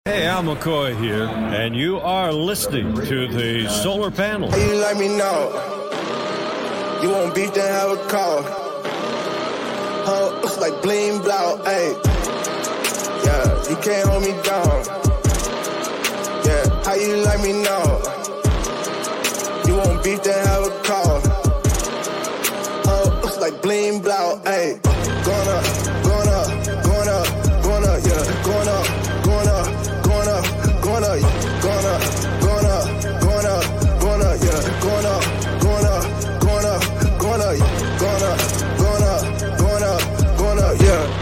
Hey, Al McCoy here, and you are listening to the Solar Panel. How you like me now? You want beef, then have a call. Huh, looks like bling blow, ayy. Yeah, you can't hold me down. Yeah, how you like me now? You want beef, then have a call. Huh, looks like bling blow, ayy. Going up, going up, going up, going up, yeah, going up, going up. Going up, going up, going up, going up, going up, yeah, going up, going up, going up, going up, going up, going up, going up, going up, yeah.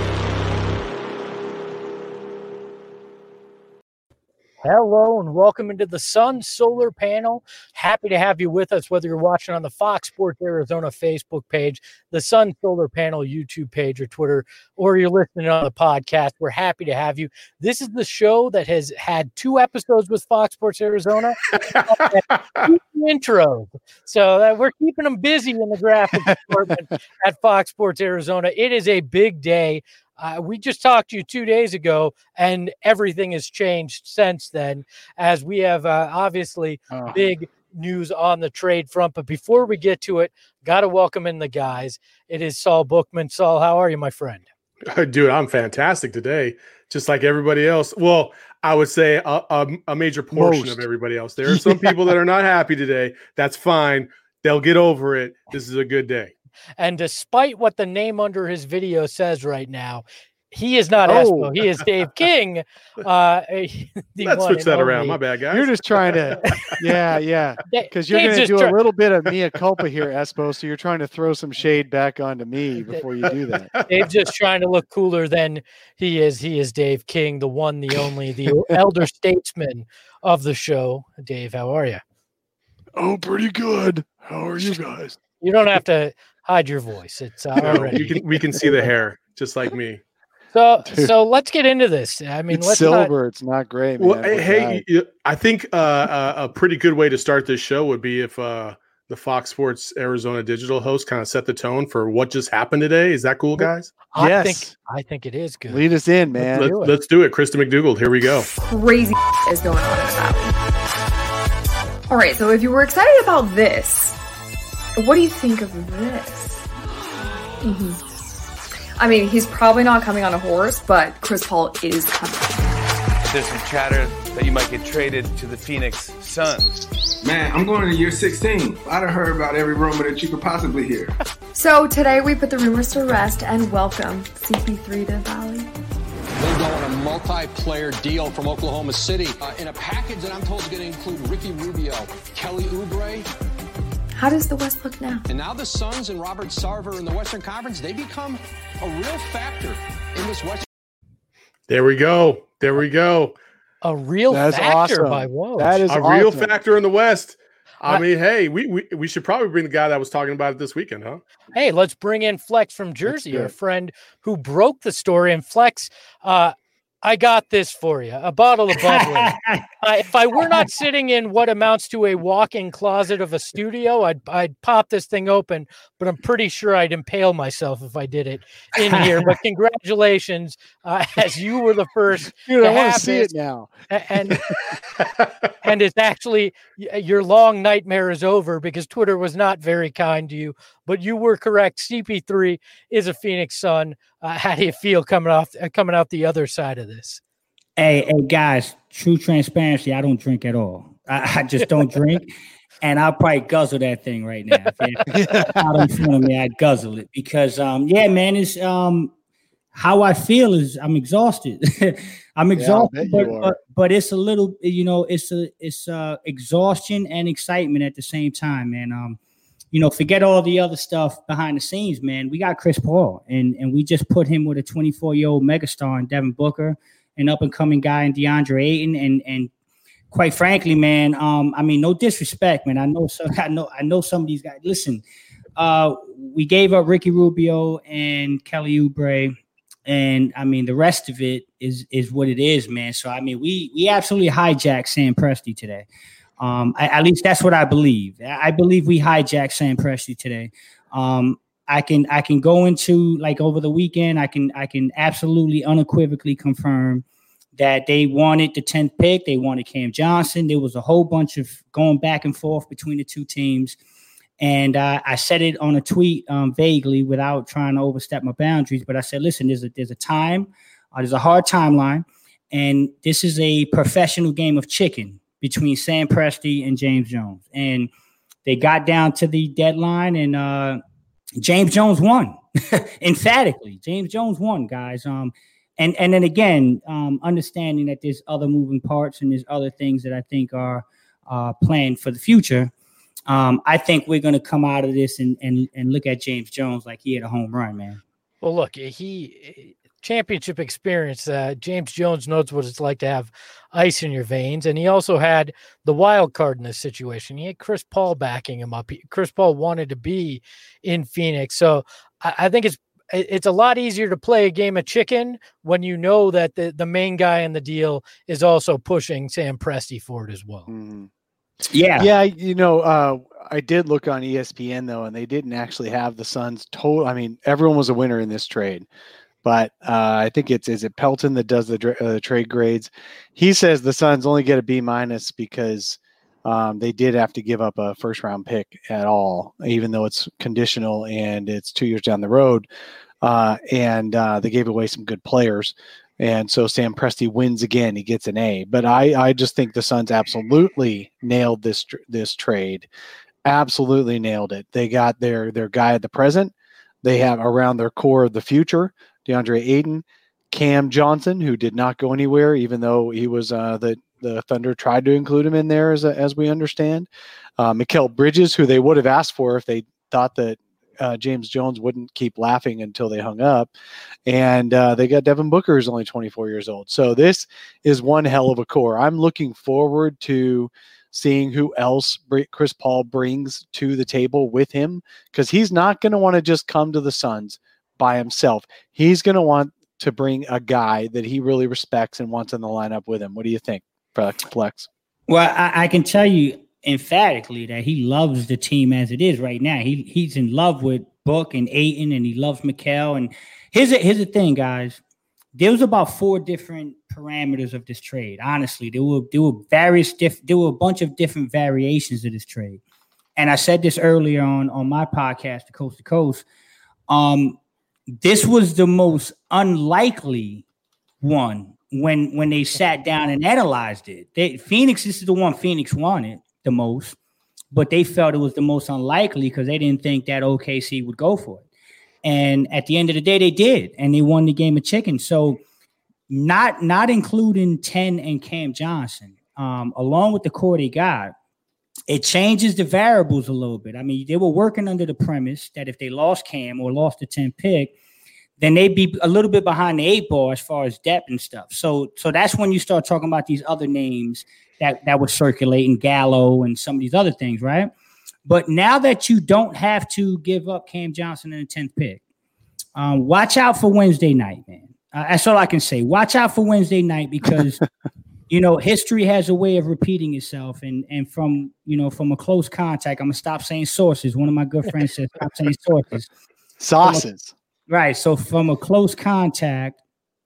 Hello and welcome into the Sun Solar Panel. Happy to have you with us, whether you're watching on the Fox Sports Arizona Facebook page, the Sun Solar Panel YouTube page or Twitter, or you're listening on the podcast. We're happy to have you. This is the show that has had 2 episodes with Fox Sports Arizona, 2 intros. So we're keeping them busy in the graphic department at Fox Sports Arizona. It is a big day. We just talked to you 2 days ago, and everything has changed since then, as we have obviously big news on the trade front. But before we get to it, got to welcome in the guys. It is Saul Bookman. Saul, how are you, my friend? Dude, I'm fantastic today, just like everybody else. Well, I would say a major portion of everybody else. There are some people that are not happy today. That's fine. They'll get over it. This is a good day. And despite what the name under his video says right now, he is not Espo. He is Dave King. Let's switch that around. My bad, guys. You're just trying to, yeah. Because you're going to do a little bit of mea culpa here, Espo. So you're trying to throw some shade back onto me before you do that. Dave's just trying to look cooler than he is. He is Dave King, the one, the only, the elder statesman of the show. Dave, how are you? Oh, pretty good. How are you guys? You don't have to hide your voice. It's already. We can see the hair, just like me. So let's get into this. I mean, it's silver. It's not gray, man. Well, hey, I think a pretty good way to start this show would be if the Fox Sports Arizona digital host kind of set the tone for what just happened today. Is that cool, guys? Yes. I think it is good. Lead us in, man. Let's do it. Krista McDougald, here we go. Crazy is going on in Valley. All right, so if you were excited about this, what do you think of this? I mean, he's probably not coming on a horse, but Chris Paul is coming. There's some chatter that you might get traded to the Phoenix Suns. Man, I'm going to year 16. I'd have heard about every rumor that you could possibly hear. So today we put the rumors to rest and welcome CP3 to Valley. They go on a multi-player deal from Oklahoma City in a package that I'm told is going to include Ricky Rubio, Kelly Oubre. How does the West look now? And now the Suns and Robert Sarver in the Western Conference, they become a real factor in this Western. There we go. A real factor by Woj. That is a real factor in the West. I mean, hey, we should probably bring the guy that was talking about it this weekend, huh? Hey, let's bring in Flex from Jersey, our friend who broke the story. And Flex, I got this for you, a bottle of bubbly. If I were not sitting in what amounts to a walk-in closet of a studio, I'd pop this thing open, but I'm pretty sure I'd impale myself if I did it in here. But congratulations, as you were the first Dude, to I want have to see this. it now. And it's actually your long nightmare is over because Twitter was not very kind to you, but you were correct. CP3 is a Phoenix Sun. How do you feel coming out the other side of this? Hey, guys, true transparency. I don't drink at all. I just don't drink. And I'll probably guzzle that thing right now. Out in front of me, I'd guzzle it because, man, it's how I feel is I'm exhausted. I'm exhausted, but it's a little, it's exhaustion and excitement at the same time, man. Forget all the other stuff behind the scenes, man. We got Chris Paul, and we just put him with a 24-year-old megastar in Devin Booker, an up-and-coming guy in DeAndre Ayton, and quite frankly, man, I mean, no disrespect, man. I know some of these guys. Listen, we gave up Ricky Rubio and Kelly Oubre, and I mean, the rest of it is what it is, man. So I mean, we absolutely hijacked Sam Presti today. At least that's what I believe. I believe we hijacked Sam Presti today. I can go into like over the weekend. I can absolutely unequivocally confirm that they wanted the 10th pick. They wanted Cam Johnson. There was a whole bunch of going back and forth between the two teams. And I said it on a tweet vaguely without trying to overstep my boundaries. But I said, listen, there's a time, there's a hard timeline. And this is a professional game of chicken between Sam Presti and James Jones. And they got down to the deadline, and James Jones won emphatically. James Jones won, guys. And then again, understanding that there's other moving parts and there's other things that I think are planned for the future. I think we're going to come out of this and look at James Jones like he had a home run, man. Well, look, championship experience. James Jones knows what it's like to have ice in your veins, and he also had the wild card in this situation. He had Chris Paul backing him up. Chris Paul wanted to be in Phoenix, so I think it's a lot easier to play a game of chicken when you know that the main guy in the deal is also pushing Sam Presti forward as well. Mm-hmm. Yeah. I did look on ESPN though, and they didn't actually have the Suns total. I mean, everyone was a winner in this trade, but I think is it Pelton that does the trade grades. He says the Suns only get a B- because they did have to give up a first round pick at all, even though it's conditional and it's 2 years down the road. And they gave away some good players. And so Sam Presti wins again. He gets an A. But I just think the Suns absolutely nailed this trade. Absolutely nailed it. They got their guy at the present. They have around their core of the future, DeAndre Ayton, Cam Johnson, who did not go anywhere, even though he was the Thunder tried to include him in there, as we understand. Mikal Bridges, who they would have asked for if they thought that James Jones wouldn't keep laughing until they hung up. And they got Devin Booker, who's only 24 years old. So this is one hell of a core. I'm looking forward to seeing who else Chris Paul brings to the table with him, because he's not going to want to just come to the Suns by himself. He's going to want to bring a guy that he really respects and wants in the lineup with him. What do you think, Flex? Well, I can tell you emphatically that he loves the team as it is right now. He's in love with Book and Ayton, and he loves Mikal. And here's the thing, guys. There was about 4 different parameters of this trade. Honestly, there were a bunch of different variations of this trade. And I said this earlier on my podcast, The Coast to Coast. This was the most unlikely one when they sat down and analyzed it. This is the one Phoenix wanted the most, but they felt it was the most unlikely because they didn't think that OKC would go for it. And at the end of the day, they did, and they won the game of chicken. So not including 10 and Cam Johnson, along with the core they got, it changes the variables a little bit. I mean, they were working under the premise that if they lost Cam or lost the 10th pick, then they'd be a little bit behind the 8 ball as far as depth and stuff. So that's when you start talking about these other names that were circulating, Gallo and some of these other things, right? But now that you don't have to give up Cam Johnson in the 10th pick, watch out for Wednesday night, man. That's all I can say. Watch out for Wednesday night because, history has a way of repeating itself. And from a close contact, I'm going to stop saying sources. One of my good friends said, stop saying sources. Sauces. Right. So from a close contact,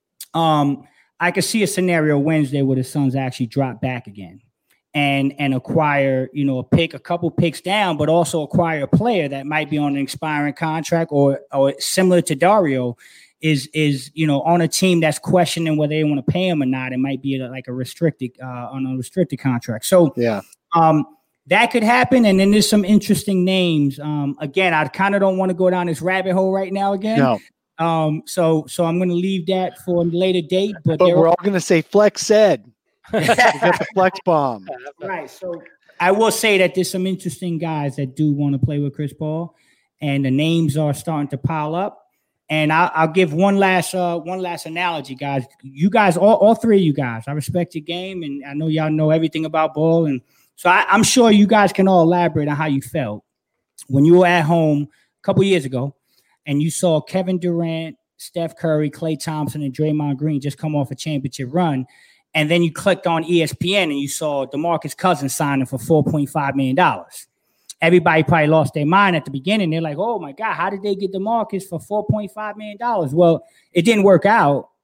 I could see a scenario Wednesday where the Suns actually drop back again and acquire, a couple picks down, but also acquire a player that might be on an expiring contract or similar to Dario is on a team that's questioning whether they want to pay him or not. It might be like a restricted on a restricted contract. So yeah, that could happen. And then there's some interesting names. Again, I kind of don't want to go down this rabbit hole right now again. No. So I'm going to leave that for a later date. But we're all going to say Flex said. We got the Flex bomb. Right. So I will say that there's some interesting guys that do want to play with Chris Paul, and the names are starting to pile up. And I'll give one last analogy, guys. You guys, all 3 of you guys, I respect your game, and I know y'all know everything about ball, and so I'm sure you guys can all elaborate on how you felt when you were at home a couple years ago, and you saw Kevin Durant, Steph Curry, Klay Thompson, and Draymond Green just come off a championship run. And then you clicked on ESPN and you saw DeMarcus Cousins signing for $4.5 million. Everybody probably lost their mind at the beginning. They're like, oh, my God, how did they get DeMarcus for $4.5 million? Well, it didn't work out.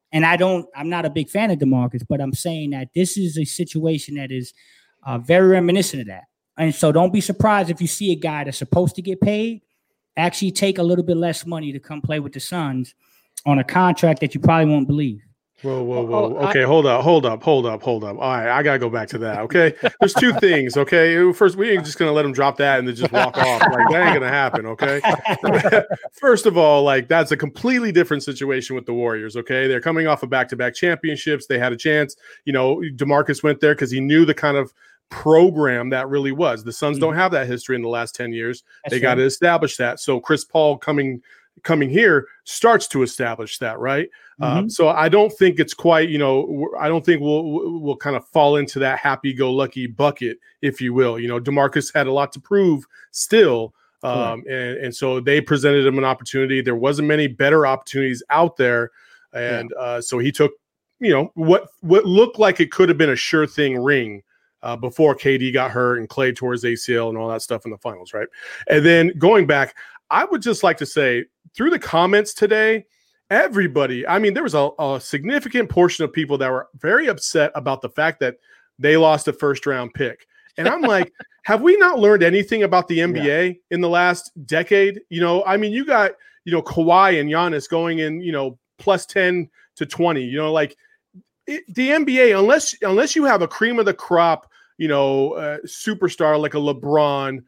And I'm not a big fan of DeMarcus, but I'm saying that this is a situation that is very reminiscent of that. And so don't be surprised if you see a guy that's supposed to get paid actually take a little bit less money to come play with the Suns on a contract that you probably won't believe. Whoa. Okay, hold up. All right, I got to go back to that, okay? There's two things, okay? First, we ain't just going to let him drop that and then just walk off. Like, that ain't going to happen, okay? First of all, like, that's a completely different situation with the Warriors, okay? They're coming off of back-to-back championships. They had a chance. You know, DeMarcus went there because he knew the kind of program that really was. The Suns don't have that history in the last 10 years. They got to establish that. So Chris Paul coming here starts to establish that, right? So I don't think it's quite, I don't think we'll kind of fall into that happy-go-lucky bucket, if you will. DeMarcus had a lot to prove still, and so they presented him an opportunity. There wasn't many better opportunities out there, and so he took, what looked like it could have been a sure thing ring before KD got hurt and Klay tore his ACL and all that stuff in the finals, right? And then going back, I would just like to say, through the comments today, everybody, I mean, there was a significant portion of people that were very upset about the fact that they lost a first-round pick. And I'm like, have we not learned anything about the NBA in the last decade? I mean, you got, Kawhi and Giannis going in, plus 10 to 20, the NBA, unless you have a cream of the crop, superstar like a LeBron,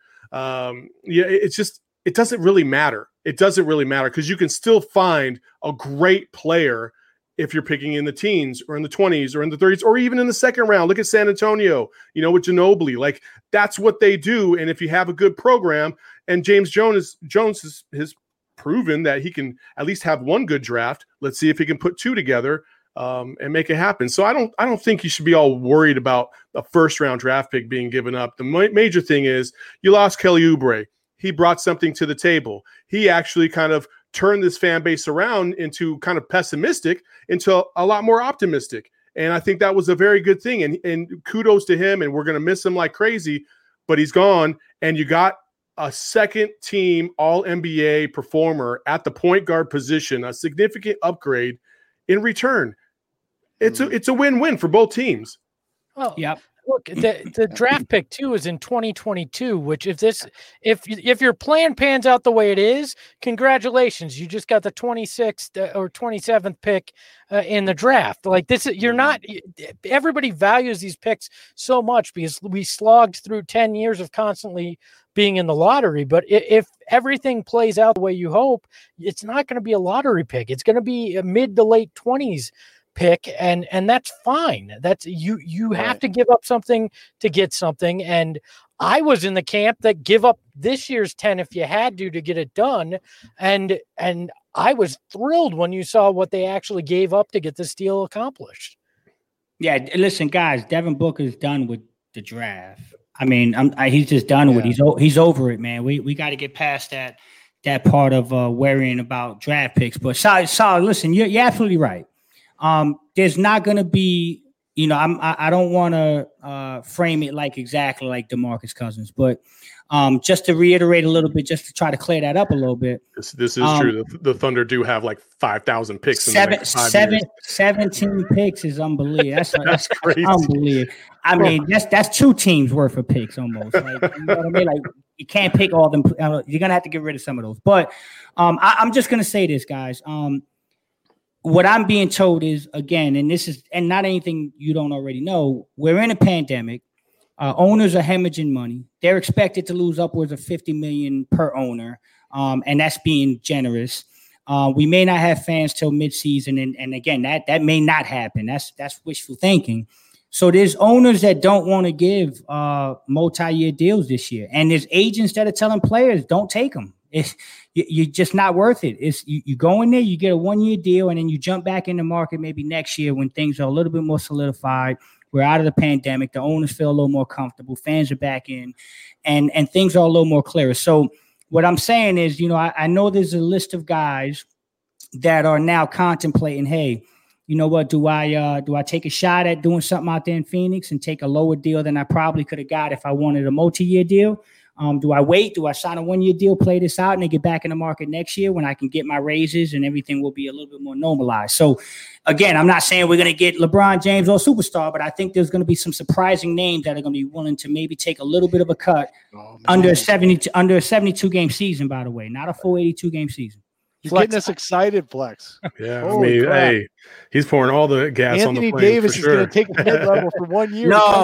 it doesn't really matter. It doesn't really matter because you can still find a great player if you're picking in the teens or in the 20s or in the 30s or even in the second round. Look at San Antonio, with Ginobili. Like, that's what they do. And if you have a good program, and James Jones has proven that he can at least have one good draft. Let's see if he can put two together and make it happen. So I don't think you should be all worried about a first-round draft pick being given up. The major thing is you lost Kelly Oubre. He brought something to the table. He actually kind of turned this fan base around into kind of pessimistic into a lot more optimistic. And I think that was a very good thing. And kudos to him. And we're going to miss him like crazy, but he's gone. And you got a second team All-NBA performer at the point guard position, a significant upgrade in return. It's a win-win for both teams. Oh, yeah. Look, the draft pick too is in 2022, which if your plan pans out the way it is, congratulations. You just got the 26th or 27th pick in the draft. Like this, everybody values these picks so much because we slogged through 10 years of constantly being in the lottery. But if everything plays out the way you hope, it's not going to be a lottery pick. It's going to be a mid to late 20s pick, and that's fine. That's you have to give up something to get something. And I was in the camp that give up this year's 10 if you had to get it done. And I was thrilled when you saw what they actually gave up to get this deal accomplished. Yeah, listen, guys, Devin Booker's done with the draft. I mean, he's just done with it. He's over it, man. We got to get past that part of worrying about draft picks. But Sal, listen, you're absolutely right. There's not going to be, I don't want to frame it like exactly like DeMarcus Cousins, but just to reiterate a little bit, just to try to clear that up a little bit. This is true. The Thunder do have like 5,000 picks. In the next 5 years. 17 picks is unbelievable. That's crazy. Unbelievable. I mean, that's two teams worth of picks almost. Like, you know what I mean? Like, you can't pick all of them. You're going to have to get rid of some of those. But I'm just going to say this, guys. What I'm being told is, again, and not anything you don't already know, we're in a pandemic. Owners are hemorrhaging money. They're expected to lose upwards of $50 million per owner, and that's being generous. We may not have fans till midseason, and again, that may not happen. That's wishful thinking. So there's owners that don't want to give multi-year deals this year, and there's agents that are telling players, don't take them. You're just not worth it. You go in there, you get a 1-year deal, and then you jump back in the market maybe next year when things are a little bit more solidified. We're out of the pandemic. The owners feel a little more comfortable. Fans are back in, and things are a little more clearer. So what I'm saying is, I know there's a list of guys that are now contemplating, hey, you know what? Do I take a shot at doing something out there in Phoenix and take a lower deal than I probably could have got if I wanted a multi-year deal? Do I wait? Do I sign a 1-year deal, play this out, and then get back in the market next year when I can get my raises and everything will be a little bit more normalized? So, again, I'm not saying we're going to get LeBron James or superstar, but I think there's going to be some surprising names that are going to be willing to maybe take a little bit of a cut under a 72 game season, by the way, not a full 82 game season. You're getting us excited, Flex. Yeah, Holy I mean, crap. hey, he's pouring all the gas on the Anthony flame. Davis for is sure. going to take the mid-level for 1 year. No.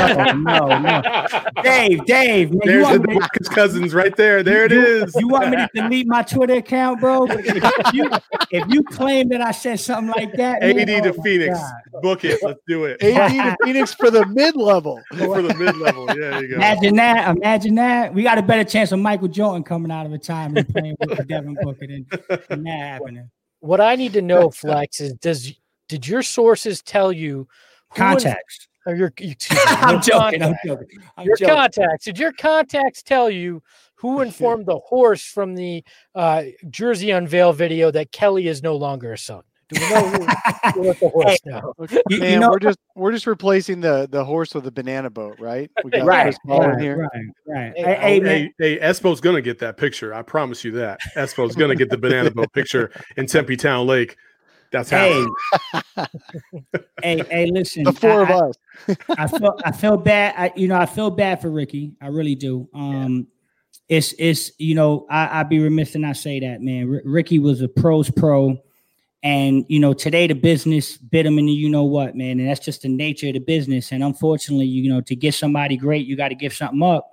Dave, man, There's the Marcus Cousins right there. There it is. You want me to delete my Twitter account, bro? If you claim that I said something like that, AD man, to oh my Phoenix. God. Book it. Let's do it. AD to Phoenix for the mid-level. For the mid-level. Yeah, there you go. Imagine that. We got a better chance of Michael Jordan coming out of retirement and playing with Devin Booker than that happening. What I need to know, Flex, is did your sources tell you contacts? I'm joking. Your contacts. Did your contacts tell you who informed the horse from the jersey unveil video that Kelly is no longer a son? Do we know who let the horse know? Man, we're just replacing the horse with a banana boat, right? We got Chris Paul in here. Right. Hey, Espo's gonna get that picture. I promise you that. Espo's gonna get the banana boat picture in Tempe Town Lake. That's happening. Hey, listen. The four of us. I feel bad. I feel bad for Ricky. I really do. It's I'd be remiss to not say that, man. Ricky was a pro's pro. And, today the business bit him in the you-know-what, man. And that's just the nature of the business. And unfortunately, to get somebody great, you got to give something up.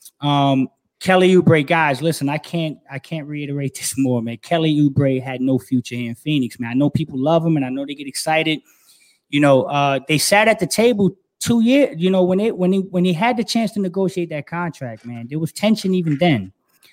Kelly Oubre, guys, listen, I can't reiterate this more, man. Kelly Oubre had no future here in Phoenix, man. I know people love him, and I know they get excited. They sat at the table 2 years, when he had the chance to negotiate that contract, man. There was tension even then.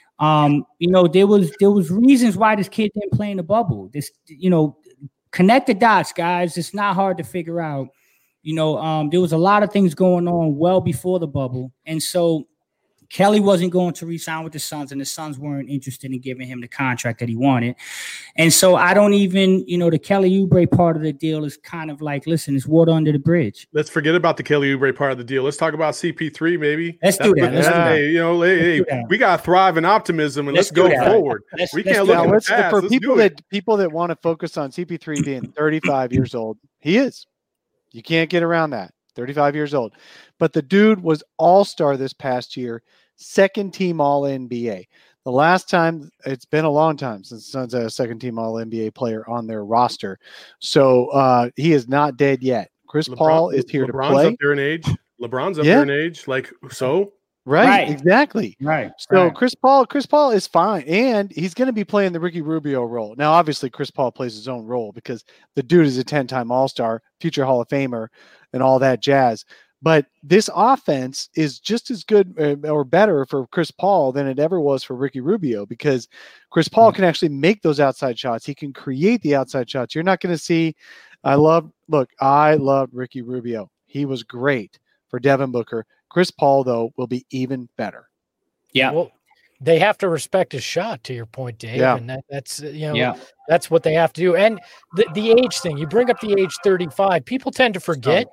There was reasons why this kid didn't play in the bubble. This, connect the dots, guys. It's not hard to figure out. There was a lot of things going on well before the bubble. And so Kelly wasn't going to re-sign with the Suns, and the Suns weren't interested in giving him the contract that he wanted. And so I don't even, the Kelly Oubre part of the deal is kind of like, listen, it's water under the bridge. Let's forget about the Kelly Oubre part of the deal. Let's talk about CP3, maybe. Let's do that. We got to thrive in optimism, and let's go forward. We can't look at the past. For people that want to focus on CP3 being 35 years old, he is. You can't get around that. 35 years old. But the dude was all-star this past year, second-team All-NBA. The last time, it's been a long time since the Suns had a second-team All-NBA player on their roster. So he is not dead yet. Chris Paul is here to play. LeBron's up there in age. LeBron's up there in age. Like, so? Right, exactly. Right. So Chris Paul is fine, and he's going to be playing the Ricky Rubio role. Now, obviously, Chris Paul plays his own role because the dude is a 10-time All-Star, future Hall of Famer, and all that jazz. But this offense is just as good or better for Chris Paul than it ever was for Ricky Rubio, because Chris Paul can actually make those outside shots. He can create the outside shots. You're not going to see. I loved Ricky Rubio. He was great for Devin Booker. Chris Paul, though, will be even better. Yeah. Well, they have to respect his shot, to your point, Dave. Yeah. And that's what they have to do. And the age thing, you bring up the age 35. People tend to forget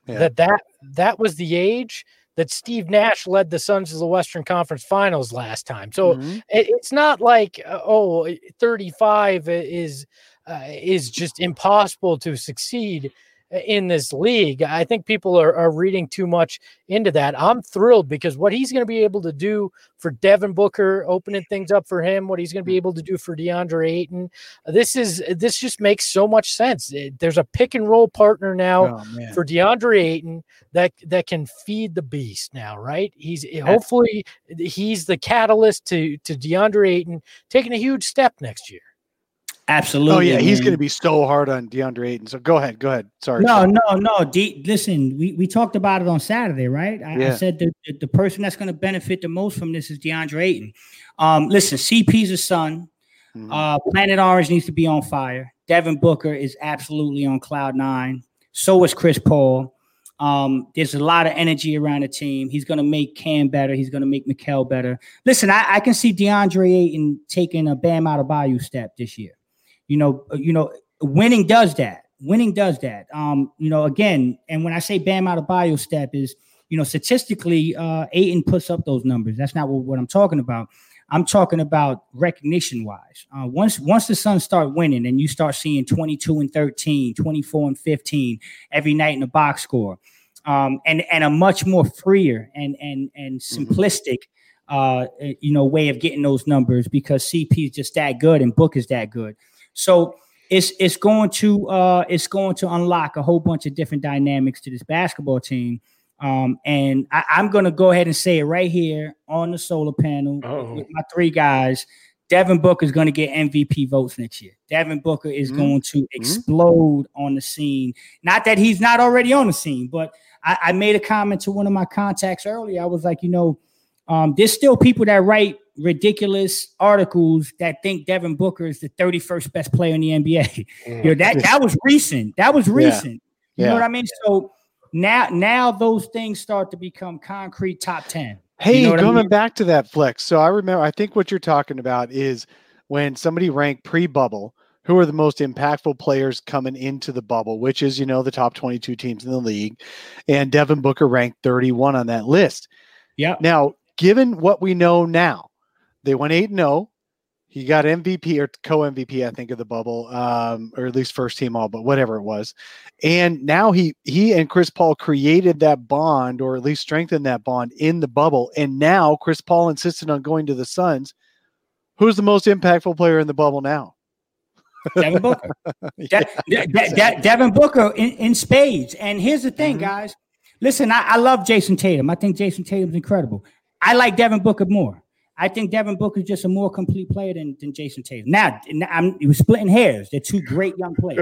that was the age that Steve Nash led the Suns to the Western Conference Finals last time. So it's not like 35 is just impossible to succeed in this league. I think people are reading too much into that. I'm thrilled because what he's going to be able to do for Devin Booker, opening things up for him, what he's going to be able to do for DeAndre Ayton, this just makes so much sense. There's a pick and roll partner now for DeAndre Ayton that can feed the beast now, right? Hopefully he's the catalyst to DeAndre Ayton taking a huge step next year. Absolutely. Oh, yeah. He's going to be so hard on DeAndre Ayton. So go ahead. Sorry. No. Listen, we talked about it on Saturday, right? I said the person that's going to benefit the most from this is DeAndre Ayton. Listen, CP's a son. Planet Orange needs to be on fire. Devin Booker is absolutely on cloud 9. So is Chris Paul. There's a lot of energy around the team. He's going to make Cam better. He's going to make Mikal better. Listen, I can see DeAndre Ayton taking a Bam Adebayo step this year. Winning does that. Again, and when I say Bam Adebayo step is, statistically, Ayton puts up those numbers. That's not what I'm talking about. I'm talking about recognition wise. Once the Suns start winning and you start seeing 22-13, 24-15 every night in the box score, and a much more freer and simplistic way of getting those numbers, because CP is just that good and Book is that good. So it's going to unlock a whole bunch of different dynamics to this basketball team. And I'm going to go ahead and say it right here on the solar panel with my three guys. Devin Booker is going to get MVP votes next year. Devin Booker is going to explode on the scene. Not that he's not already on the scene, but I made a comment to one of my contacts earlier. I was like, there's still people that write ridiculous articles that think Devin Booker is the 31st best player in the NBA. That was recent. That was recent. You know what I mean? So now those things start to become concrete top 10. Hey, coming back to that, Flex. So I think what you're talking about is when somebody ranked pre-bubble, who are the most impactful players coming into the bubble, which is, the top 22 teams in the league. And Devin Booker ranked 31 on that list. Yeah. Now, given what we know now, they went 8-0. He got MVP or co-MVP, I think, of the bubble, or at least first team all, but whatever it was. And now he and Chris Paul created that bond, or at least strengthened that bond in the bubble. And now Chris Paul insisted on going to the Suns. Who's the most impactful player in the bubble now? Devin Booker. Devin Booker in spades. And here's the thing, guys. Listen, I love Jason Tatum. I think Jason Tatum's incredible. I like Devin Booker more. I think Devin Booker is just a more complete player than Jason Tatum. Now, he was splitting hairs. They're two great young players.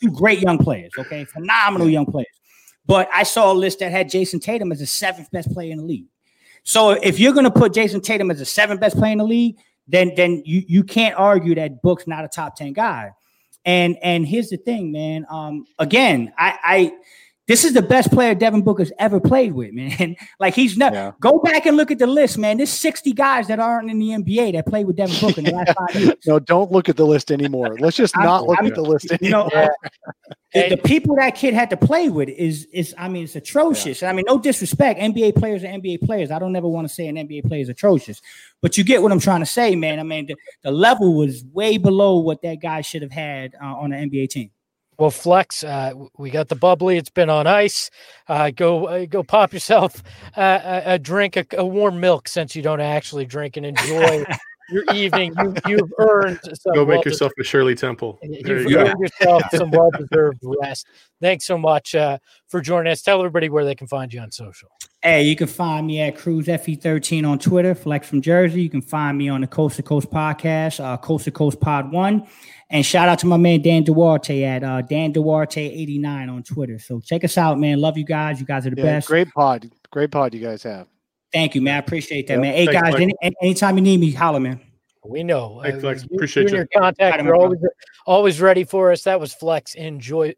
Okay? Phenomenal young players. But I saw a list that had Jason Tatum as the 7th best player in the league. So if you're going to put Jason Tatum as the 7th best player in the league, then you can't argue that Book's not a top 10 guy. And here's the thing, man. Again, this is the best player Devin Booker's ever played with, man. Like, he's not. Yeah. Go back and look at the list, man. There's 60 guys that aren't in the NBA that played with Devin Booker in the last 5 years. No, don't look at the list anymore. Let's just not look at the list anymore. The people that kid had to play with is it's atrocious. Yeah. No disrespect. NBA players are NBA players. I don't ever want to say an NBA player is atrocious, but you get what I'm trying to say, man. The level was way below what that guy should have had on an NBA team. Well, Flex, we got the bubbly. It's been on ice. Go pop yourself a drink, a warm milk, since you don't actually drink, and enjoy your evening. You've earned some. Go make yourself a Shirley Temple. You've earned yourself some well-deserved rest. Thanks so much for joining us. Tell everybody where they can find you on social. Hey, you can find me at Cruz FE13 on Twitter, Flex from Jersey. You can find me on the Coast to Coast podcast, Coast to Coast Pod 1. And shout out to my man Dan Duarte at Dan Duarte89 on Twitter. So check us out, man. Love you guys. You guys are the best. Great pod you guys have. Thank you, man. I appreciate that, man. Hey, guys, anytime you need me, holler, man. We know. Hey, Flex, appreciate you. Your contact. You're always ready for us. That was Flex in Jersey,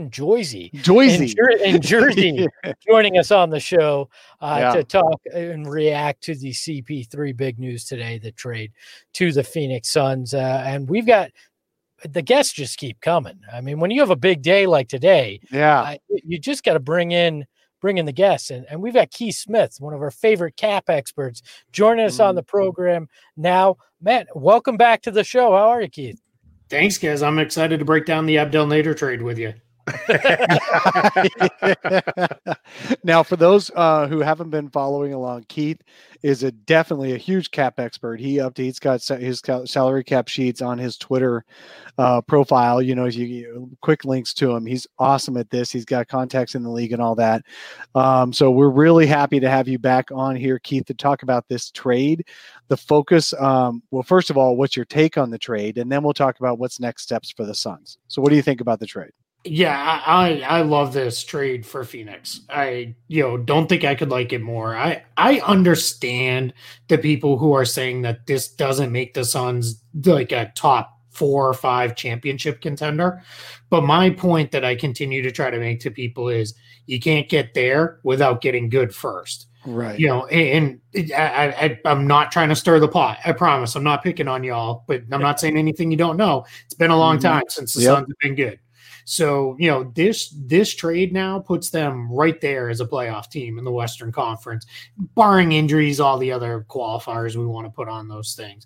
joining us on the show to talk and react to the CP3 big news today, the trade to the Phoenix Suns. And we've got the guests just keep coming. When you have a big day like today, you just got to bring in the guests. And we've got Keith Smith, one of our favorite cap experts, joining us on the program now. Matt, welcome back to the show. How are you, Keith? Thanks, guys. I'm excited to break down the Abdel Nader trade with you. Now, for those who haven't been following along, Keith is definitely a huge cap expert. He's got his salary cap sheets on his Twitter profile. Quick links to him. He's awesome at this. He's got contacts in the league and all that. So we're really happy to have you back on here, Keith, to talk about this trade. The focus, well, first of all, what's your take on the trade? And then we'll talk about what's next steps for the Suns. So what do you think about the trade? Yeah, I love this trade for Phoenix. I don't think I could like it more. I understand the people who are saying that this doesn't make the Suns like a top 4 or 5 championship contender. But my point that I continue to try to make to people is you can't get there without getting good first. Right. And I'm not trying to stir the pot. I promise. I'm not picking on y'all, but I'm not saying anything you don't know. It's been a long time since the Suns have been good. So, this trade now puts them right there as a playoff team in the Western Conference, barring injuries, all the other qualifiers we want to put on those things.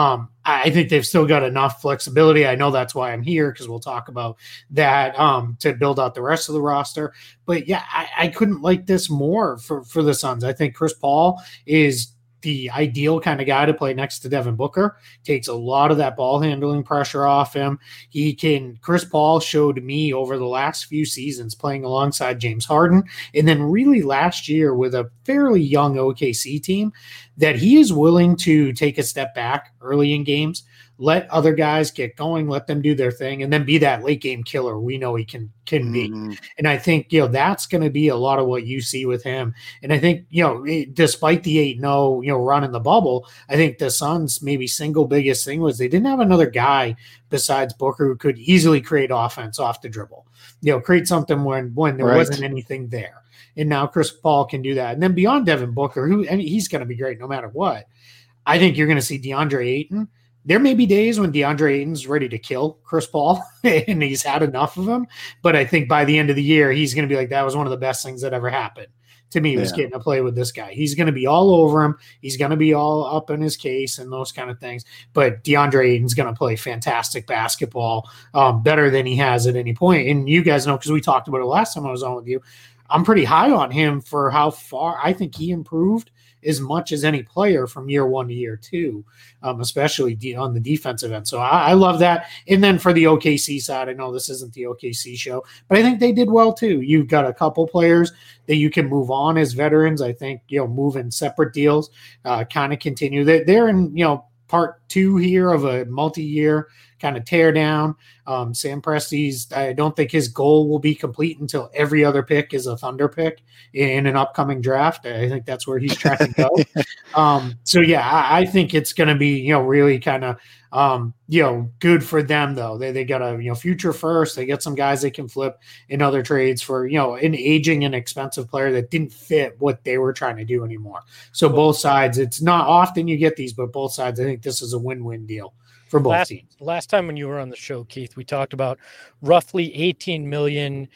I think they've still got enough flexibility. I know that's why I'm here, because we'll talk about that to build out the rest of the roster. But yeah, I couldn't like this more for the Suns. I think Chris Paul is the ideal kind of guy to play next to Devin Booker. Takes a lot of that ball handling pressure off him. Chris Paul showed me over the last few seasons playing alongside James Harden, and then really last year with a fairly young OKC team, that he is willing to take a step back early in games, let other guys get going, let them do their thing, and then be that late game killer we know he can be. And I think, that's going to be a lot of what you see with him. And I think, despite the 8-0, run in the bubble, I think the Suns' maybe single biggest thing was they didn't have another guy besides Booker who could easily create offense off the dribble, create something when there wasn't anything there. And now Chris Paul can do that. And then beyond Devin Booker, he's going to be great no matter what, I think you're going to see DeAndre Ayton. There may be days when DeAndre Ayton's ready to kill Chris Paul and he's had enough of him. But I think by the end of the year, he's going to be like, that was one of the best things that ever happened to me, was getting to play with this guy. He's going to be all over him. He's going to be all up in his case and those kind of things. But DeAndre Ayton's going to play fantastic basketball, better than he has at any point. And you guys know, because we talked about it last time I was on with you, I'm pretty high on him for how far I think he improved as much as any player from year one to year two, especially on the defensive end. So I love that. And then for the OKC side, I know this isn't the OKC show, but I think they did well too. You've got a couple players that you can move on as veterans. I think, move in separate deals, kind of continue. They're in, part two here of a multi-year kind of tear down. Sam Presti's, I don't think his goal will be complete until every other pick is a Thunder pick in an upcoming draft. I think that's where he's trying to go. So yeah, I think it's going to be, really kind of, good for them though. They got a, future first. They get some guys they can flip in other trades for, an aging and expensive player that didn't fit what they were trying to do anymore. So both sides, it's not often you get these, but both sides, I think this is a win-win deal for both teams. Last time when you were on the show, Keith, we talked about roughly 18 million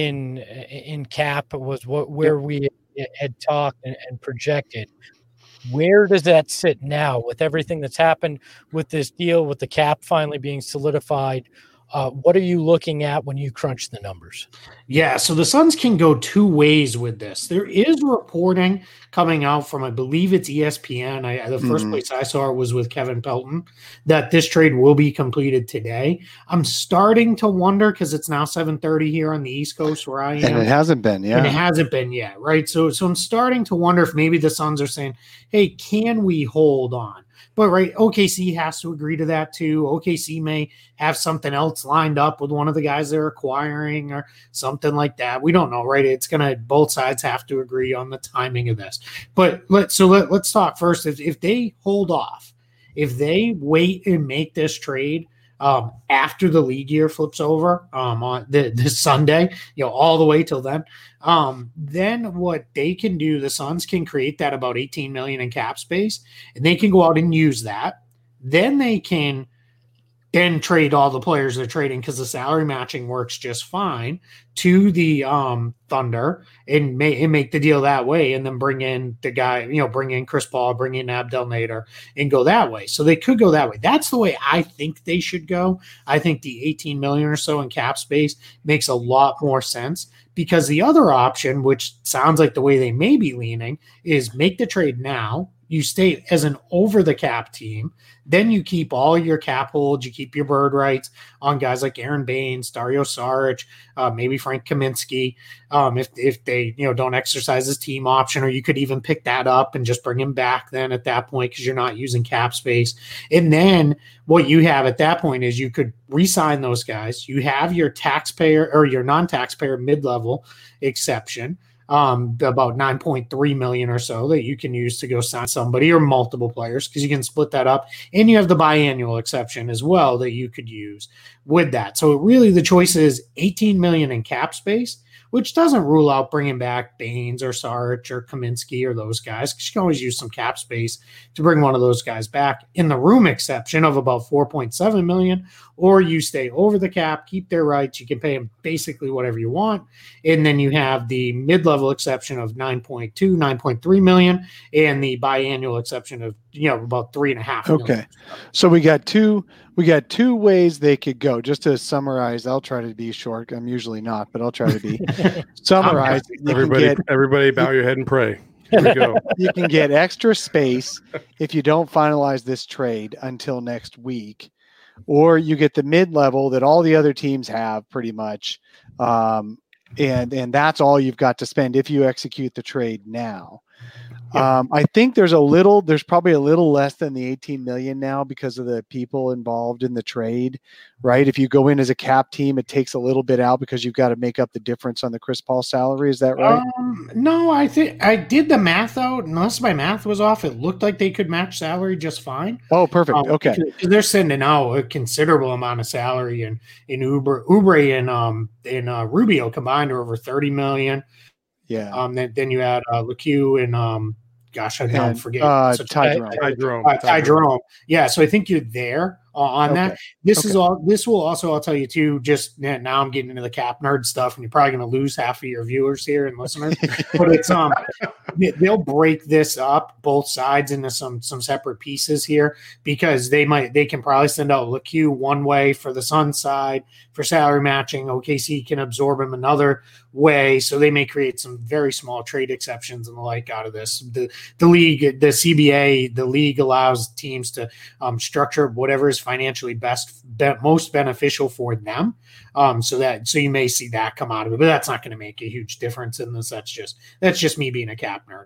in cap was where we had talked and projected. Where does that sit now with everything that's happened with this deal, with the cap finally being solidified? What are you looking at when you crunch the numbers? Yeah, so the Suns can go two ways with this. There is reporting coming out from, I believe it's ESPN. The first place I saw it was with Kevin Pelton, that this trade will be completed today. I'm starting to wonder, because it's now 7:30 here on the East Coast where I am. And it hasn't been, And it hasn't been yet, right? So I'm starting to wonder if maybe the Suns are saying, hey, can we hold on? But right, OKC has to agree to that too. OKC may have something else lined up with one of the guys they're acquiring or something like that. We don't know, right? It's gonna, both sides have to agree on the timing of this. But let's talk first. If they hold off, if they wait and make this trade after the league year flips over on this Sunday, all the way till then what they can do, the Suns can create that about 18 million in cap space, and they can go out and use that. Then they can trade all the players they're trading, because the salary matching works just fine, to the Thunder and make the deal that way, and then bring in the guy, bring in Chris Paul, bring in Abdel Nader, and go that way. So they could go that way. That's the way I think they should go. I think the 18 million or so in cap space makes a lot more sense, because the other option, which sounds like the way they may be leaning, is make the trade now. You stay as an over the cap team. Then you keep all your cap holds. You keep your bird rights on guys like Aaron Baines, Dario Saric, maybe Frank Kaminsky, if they don't exercise his team option, or you could even pick that up and just bring him back then at that point, because you're not using cap space. And then what you have at that point is you could re-sign those guys. You have your taxpayer or your non-taxpayer mid-level exception, about 9.3 million or so that you can use to go sign somebody or multiple players, because you can split that up. And you have the biannual exception as well that you could use with that. So really the choice is 18 million in cap space which doesn't rule out bringing back Baines or Saric or Kaminsky or those guys, because you can always use some cap space to bring one of those guys back in the room exception of about $4.7 million, or you stay over the cap, keep their rights. You can pay them basically whatever you want. And then you have the mid-level exception of 9.3 million and the biannual exception of, about 3.5 million. Okay. So we got two ways they could go. Just to summarize, I'll try to be short. I'm usually not, but I'll try to be. Summarize. Everybody bow your head and pray. Here we go. You can get extra space if you don't finalize this trade until next week, or you get the mid-level that all the other teams have pretty much. And that's all you've got to spend if you execute the trade now. I think there's probably a little less than the 18 million now because of the people involved in the trade, right? If you go in as a cap team, it takes a little bit out because you've got to make up the difference on the Chris Paul salary. Is that right? No, I think I did the math out. Unless my math was off, it looked like they could match salary just fine. Oh, perfect. Okay. Because they're sending out a considerable amount of salary in Oubre and Rubio combined are over 30 million. Yeah. Then you add LeCue and gosh, I don't forget. Ty Jerome. Yeah, so I think you're there on that. This will also, I'll tell you too, just now I'm getting into the cap nerd stuff, and you're probably going to lose half of your viewers here and listeners. But it's they'll break this up both sides into some separate pieces here, because they can probably send out LeCue one way for the Sun side for salary matching. OKC can absorb him another way, so they may create some very small trade exceptions and the like out of this. The league, the CBA, the league allows teams to structure whatever is financially most beneficial for them. So you may see that come out of it, but that's not going to make a huge difference in this. That's just me being a cap nerd.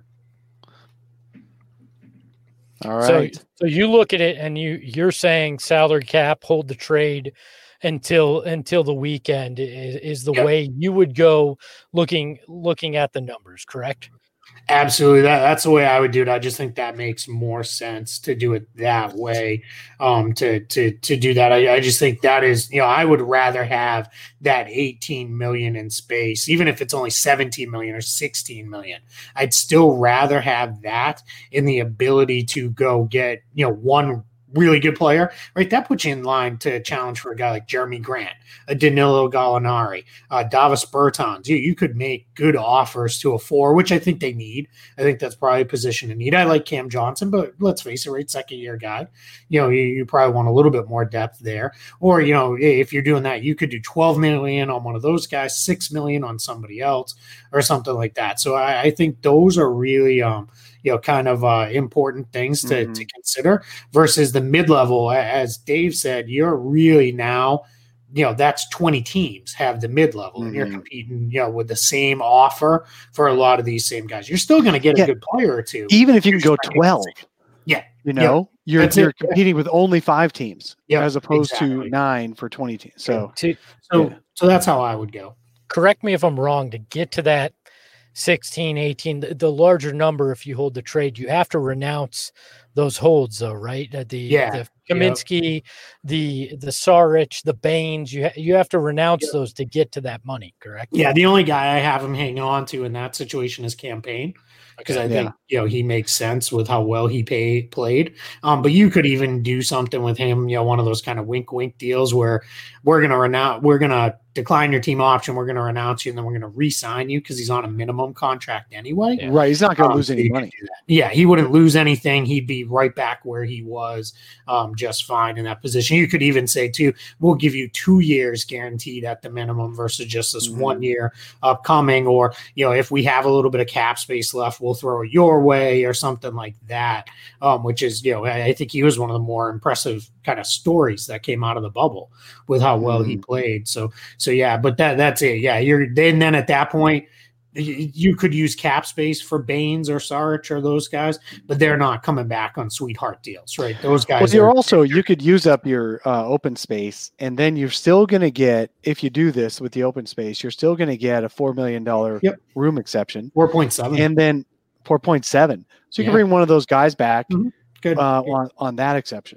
All right. So you look at it and you're saying salary cap, hold the trade until the weekend is the way you would go looking at the numbers, correct? Absolutely. That's the way I would do it. I just think that makes more sense to do it that way. To do that. I just think that is, I would rather have that 18 million in space, even if it's only 17 million or 16 million. I'd still rather have that in the ability to go get, one really good player, right? That puts you in line to challenge for a guy like Jeremy Grant, a Danilo Gallinari, Davis Bertans. You could make good offers to a 4, which I think they need. I think that's probably a position to need. I like Cam Johnson, but let's face it, right? Second year guy, you probably want a little bit more depth there. Or, if you're doing that, you could do 12 million on one of those guys, 6 million on somebody else or something like that. So I think those are really, kind of important things to consider versus the mid-level. As Dave said, you're really now, that's 20 teams have the mid-level, and you're competing, with the same offer for a lot of these same guys. You're still going to get a good player or two. Even if you can go 12. Yeah. You're competing with only 5 teams as opposed to 9 for 20 teams. So that's how I would go. Correct me if I'm wrong. To get to that 16, 18, the larger number, if you hold the trade, you have to renounce those holds though, right? The Kaminsky, the Saric, the Baines, you have to renounce those to get to that money, correct? Yeah, the only guy I have him hanging on to in that situation is Campaign, because I think he makes sense with how well he played. But you could even do something with him, one of those kind of wink deals where we're gonna decline your team option, we're gonna renounce you, and then we're gonna re-sign you because he's on a minimum contract anyway. Yeah. Right, he's not gonna lose any money. Yeah, he wouldn't lose anything. He'd be right back where he was, just fine in that position. You could even say too, we'll give you 2 years guaranteed at the minimum versus just this 1 year upcoming. Or if we have a little bit of cap space left, we'll throw it your way or something like that. Which is, I think he was one of the more impressive kind of stories that came out of the bubble with how well he played. So yeah, but that's it. Yeah, then at that point, you could use cap space for Baines or Saric or those guys, but they're not coming back on sweetheart deals, right? Those guys. Well, you could use up your open space, and then you're still going to get, if you do this with the open space, you're still going to get a $4 million room exception, 4.7, and then 4.7. So you can bring one of those guys back Good. on that exception.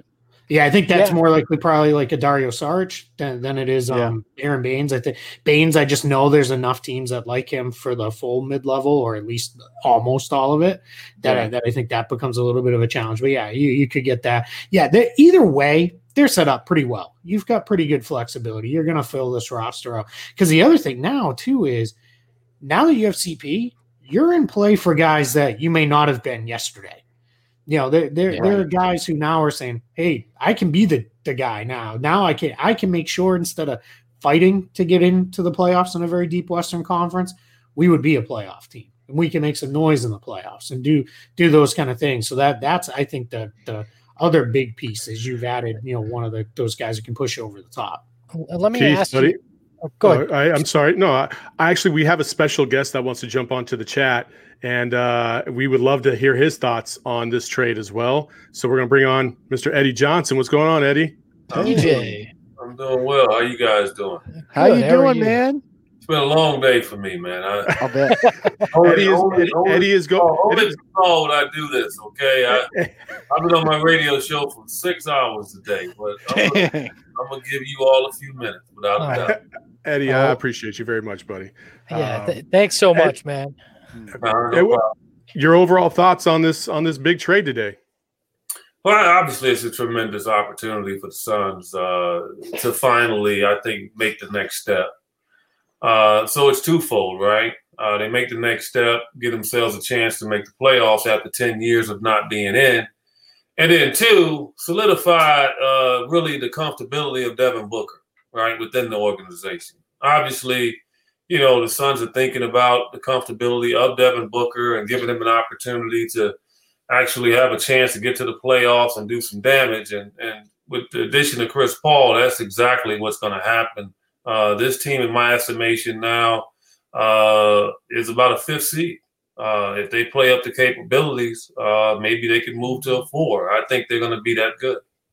Yeah, I think that's more likely probably like a Dario Saric than it is Aaron Baines. I think Baines, I just know there's enough teams that like him for the full mid-level or at least almost all of it that I think that becomes a little bit of a challenge. But yeah, you could get that. Yeah, either way, they're set up pretty well. You've got pretty good flexibility. You're going to fill this roster out. Because the other thing now, too, is now that you have CP, you're in play for guys that you may not have been yesterday. There are guys who now are saying, hey, I can be the guy now. Now I can make sure instead of fighting to get into the playoffs in a very deep Western Conference, we would be a playoff team. And we can make some noise in the playoffs and do those kind of things. So that's I think the other big piece is you've added, one of those guys who can push over the top. Let me ask you. Go ahead. I'm sorry. No, we have a special guest that wants to jump onto the chat, and we would love to hear his thoughts on this trade as well. So we're going to bring on Mr. Eddie Johnson. What's going on, Eddie? DJ. I'm doing well. How you guys doing? How you doing, man? It's been a long day for me, man. I'll bet. Eddie is going. Only when I do this, okay? I've been on my radio show for 6 hours a day, but I'm gonna give you all a few minutes without a doubt. Eddie, I appreciate you very much, buddy. Yeah, thanks so much, man. Your overall thoughts on this big trade today? Well, obviously, it's a tremendous opportunity for the Suns to finally, I think, make the next step. So it's twofold, right? They make the next step, give themselves a chance to make the playoffs after 10 years of not being in. And then two, solidify really the comfortability of Devin Booker, right, within the organization. Obviously, the Suns are thinking about the comfortability of Devin Booker and giving him an opportunity to actually have a chance to get to the playoffs and do some damage. And with the addition of Chris Paul, that's exactly what's going to happen. This team, in my estimation now, is about a 5th seed. If they play up to capabilities, maybe they could move to a 4. I think they're going to be that good.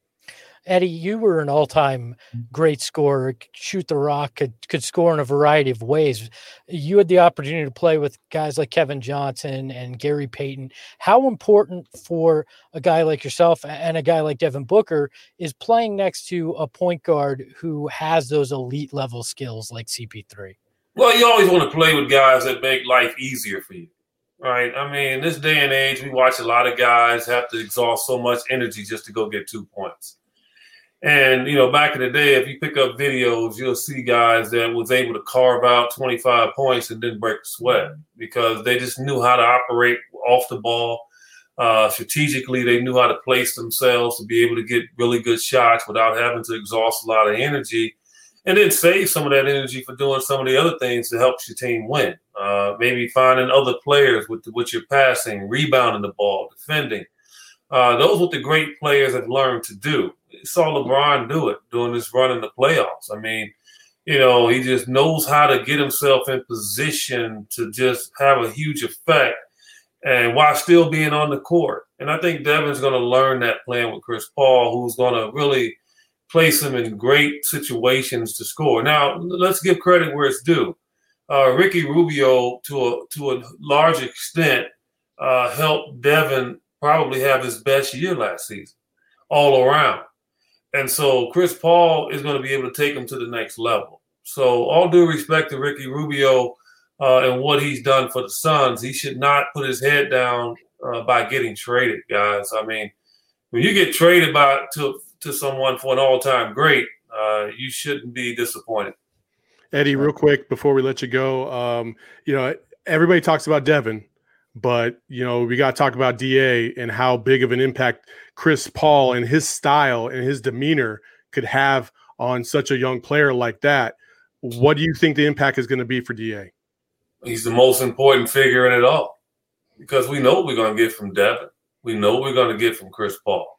Eddie, you were an all-time great scorer, shoot the rock, could score in a variety of ways. You had the opportunity to play with guys like Kevin Johnson and Gary Payton. How important for a guy like yourself and a guy like Devin Booker is playing next to a point guard who has those elite level skills like CP3? Well, you always want to play with guys that make life easier for you, right? I mean, in this day and age, we watch a lot of guys have to exhaust so much energy just to go get 2 points. And, back in the day, if you pick up videos, you'll see guys that was able to carve out 25 points and didn't break a sweat because they just knew how to operate off the ball. Strategically, they knew how to place themselves to be able to get really good shots without having to exhaust a lot of energy and then save some of that energy for doing some of the other things to help your team win. Maybe finding other players with your passing, rebounding the ball, defending. Those are what the great players have learned to do. Saw LeBron do it during this run in the playoffs. I mean, he just knows how to get himself in position to just have a huge effect and while still being on the court. And I think Devin's going to learn that playing with Chris Paul, who's going to really place him in great situations to score. Now, let's give credit where it's due. Ricky Rubio, to a large extent, helped Devin probably have his best year last season all around. And so Chris Paul is going to be able to take him to the next level. So all due respect to Ricky Rubio and what he's done for the Suns, he should not put his head down by getting traded, guys. I mean, when you get traded to someone for an all-time great, you shouldn't be disappointed. Eddie, real quick before we let you go, everybody talks about Devin, but we got to talk about DA and how big of an impact Chris Paul and his style and his demeanor could have on such a young player like that. What do you think the impact is going to be for DA? He's the most important figure in it all because we know what we're going to get from Devin. We know what we're going to get from Chris Paul.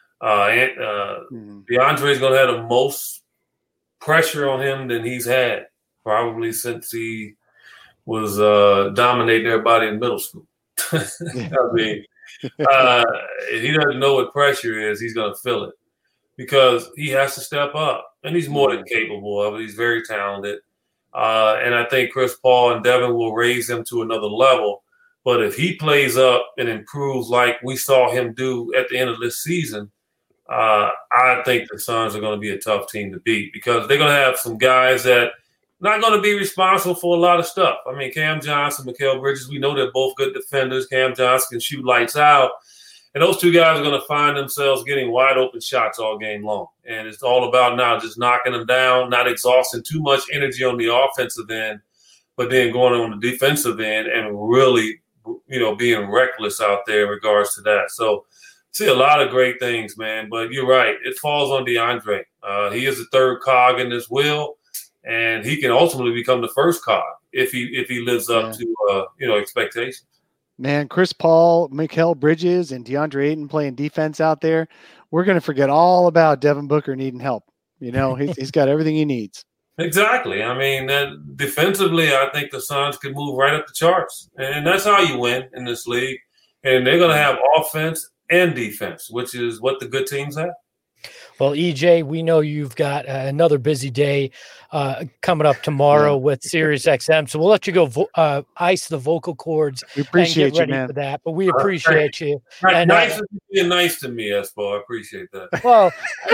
DeAndre is going to have the most pressure on him than he's had probably since he was dominating everybody in middle school. I mean, if he doesn't know what pressure is, he's going to feel it because he has to step up. And he's more than capable of it. He's very talented. And I think Chris Paul and Devin will raise him to another level. But if he plays up and improves like we saw him do at the end of this season, I think the Suns are going to be a tough team to beat because they're going to have some guys that not going to be responsible for a lot of stuff. I mean, Cam Johnson, Mikal Bridges, we know they're both good defenders. Cam Johnson can shoot lights out. And those two guys are going to find themselves getting wide open shots all game long. And it's all about now just knocking them down, not exhausting too much energy on the offensive end, but then going on the defensive end and really, being reckless out there in regards to that. So see a lot of great things, man. But you're right. It falls on DeAndre. He is the third cog in this wheel, and he can ultimately become the first cog if he lives up to expectations. Man, Chris Paul, Mikal Bridges, and DeAndre Ayton playing defense out there. We're going to forget all about Devin Booker needing help. He's got everything he needs. Exactly. I mean, that defensively, I think the Suns could move right up the charts. And that's how you win in this league. And they're going to have offense and defense, which is what the good teams have. Well, EJ, we know you've got another busy day coming up tomorrow with SiriusXM, so we'll let you go ice the vocal cords. We appreciate and get ready you, man. for that, but we appreciate you. And nice to being nice to me, Espo. I appreciate that. Well,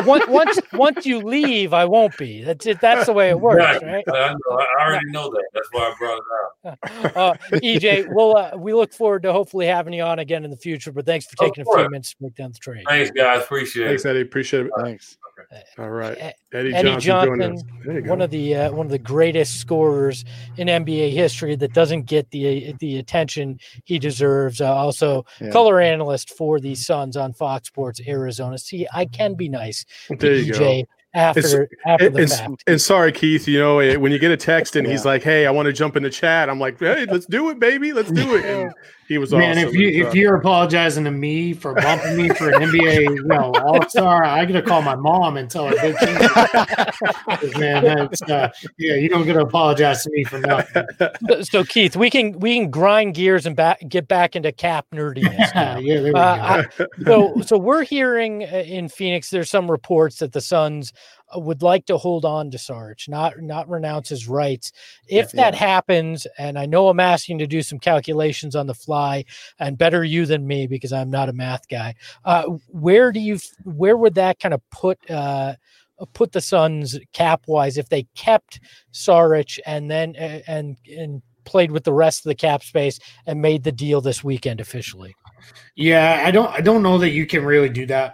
once you leave, I won't be. That's the way it works, right? I know. I already know that. That's why I brought it up. EJ, we look forward to hopefully having you on again in the future. But thanks for taking a few minutes to break down the trade. Thanks, guys. Appreciate it. Thanks, Eddie. Appreciate it. Thanks. Okay. All right. Eddie Johnson, one of the greatest scorers in NBA history that doesn't get the attention he deserves. Color analyst for the Suns on Fox Sports Arizona. See, I can be nice to EJ after the fact. And sorry, Keith, when you get a text and he's like, "Hey, I want to jump in the chat," I'm like, "Hey, let's do it, baby. Let's do it." And he was man. Awesome. If you're apologizing to me for bumping me for an NBA All-Star, I gotta call my mom and tell her big things. Man, that's you don't get to apologize to me for nothing. So Keith, we can grind gears and get back into cap nerdiness. There we go. So we're hearing in Phoenix, there's some reports that the Suns would like to hold on to Sarge, not renounce his rights. If that happens, and I know I'm asking to do some calculations on the fly, and better you than me because I'm not a math guy. Where would that kind of put the Suns cap wise if they kept Saric and then and played with the rest of the cap space and made the deal this weekend officially? Yeah, I don't know that you can really do that.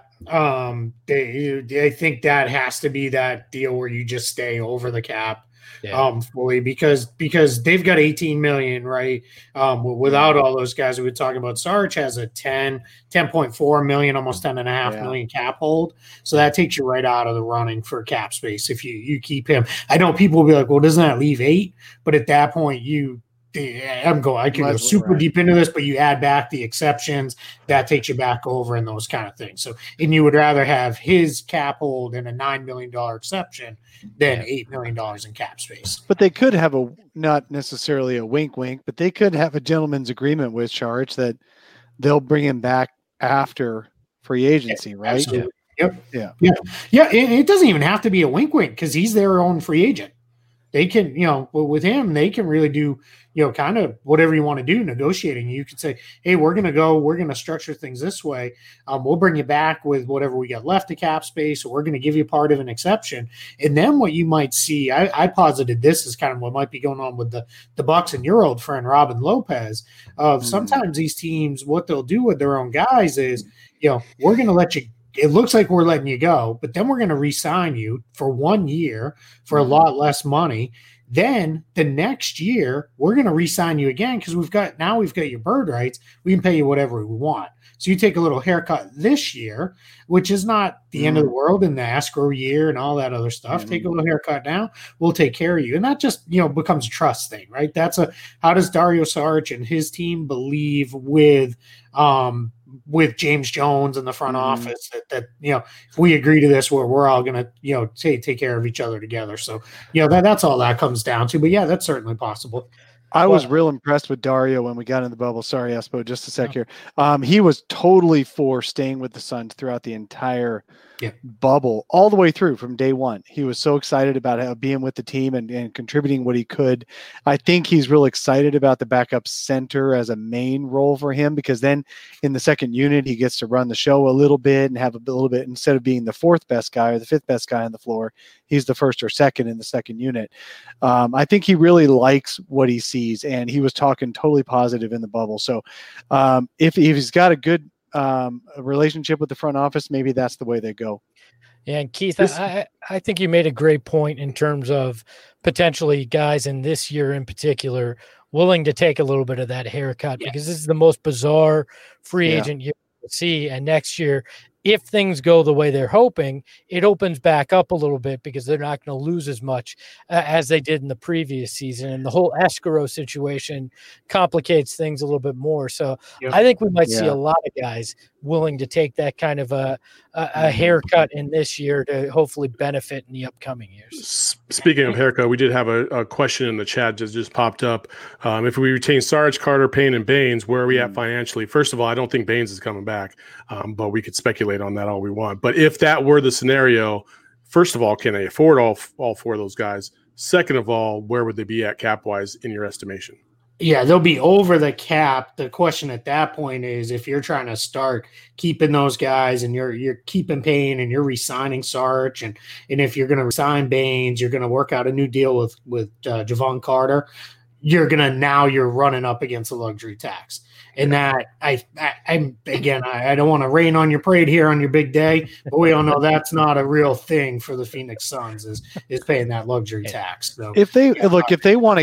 I think that has to be that deal where you just stay over the cap fully because they've got 18 million, right? Without all those guys we were talking about, Sarge has a 10.4 million, almost 10.5 million cap hold. So that takes you right out of the running for cap space if you keep him. I know people will be like, well, doesn't that leave 8? But at that point I can go super deep into this, but you add back the exceptions, that takes you back over and those kind of things. So, and you would rather have his cap hold and a $9 million exception than $8 million in cap space. But they could have not necessarily a wink, but they could have a gentleman's agreement with Sarge that they'll bring him back after free agency, right? Absolutely. Yeah. It doesn't even have to be a wink because he's their own free agent. They can, with him, they can really do, kind of whatever you want to do negotiating. You could say, hey, we're going to structure things this way. We'll bring you back with whatever we got left of cap space, or we're going to give you part of an exception. And then what you might see, I posited this is kind of what might be going on with the Bucks and your old friend, Robin Lopez. Sometimes these teams, what they'll do with their own guys is, we're going to let you. It looks like we're letting you go, but then we're going to re-sign you for 1 year for a lot less money. Then the next year, we're going to re-sign you again because we've got your bird rights. We can pay you whatever we want. So you take a little haircut this year, which is not the end of the world in the escrow year and all that other stuff. Take a little haircut now. We'll take care of you. And that just, becomes a trust thing, right? How does Dario Saric and his team believe with James Jones in the front office that if we agree to this, we're all going to take care of each other together. So, that's all that comes down to. But yeah, that's certainly possible. I was real impressed with Dario when we got in the bubble. Sorry, Espo, just a sec here. He was totally for staying with the Suns throughout the entire bubble, all the way through from day one. He was so excited about being with the team and contributing what he could. I think he's real excited about the backup center as a main role for him, because then in the second unit, he gets to run the show a little bit and have a little bit, instead of being the fourth best guy or the fifth best guy on the floor, he's the first or second in the second unit. I think he really likes what he sees, and he was talking totally positive in the bubble. So if he's got a good relationship with the front office, maybe that's the way they go. Yeah, and Keith, I think you made a great point in terms of potentially guys in this year in particular willing to take a little bit of that haircut, because this is the most bizarre free agent year to see. And next year, if things go the way they're hoping, it opens back up a little bit, because they're not going to lose as much as they did in the previous season. And the whole escrow situation complicates things a little bit more. So I think we might see a lot of guys willing to take that kind of a haircut in this year to hopefully benefit in the upcoming years. Speaking of haircut, we did have a question in the chat that just popped up. If we retain Sarge, Carter, Payne, and Baines, where are we at financially? First of all, I don't think Baines is coming back, but we could speculate on that all we want. But if that were the scenario, first of all, can they afford all four of those guys? Second of all, where would they be at cap-wise in your estimation? Yeah, they'll be over the cap. The question at that point is, if you're trying to start keeping those guys and you're keeping Payne and you're re-signing Sarge, and if you're going to resign Baines, you're going to work out a new deal with Javon Carter, you're running up against a luxury tax. And that I'm again, I don't want to rain on your parade here on your big day, but we all know that's not a real thing for the Phoenix Suns is paying that luxury tax. So if they want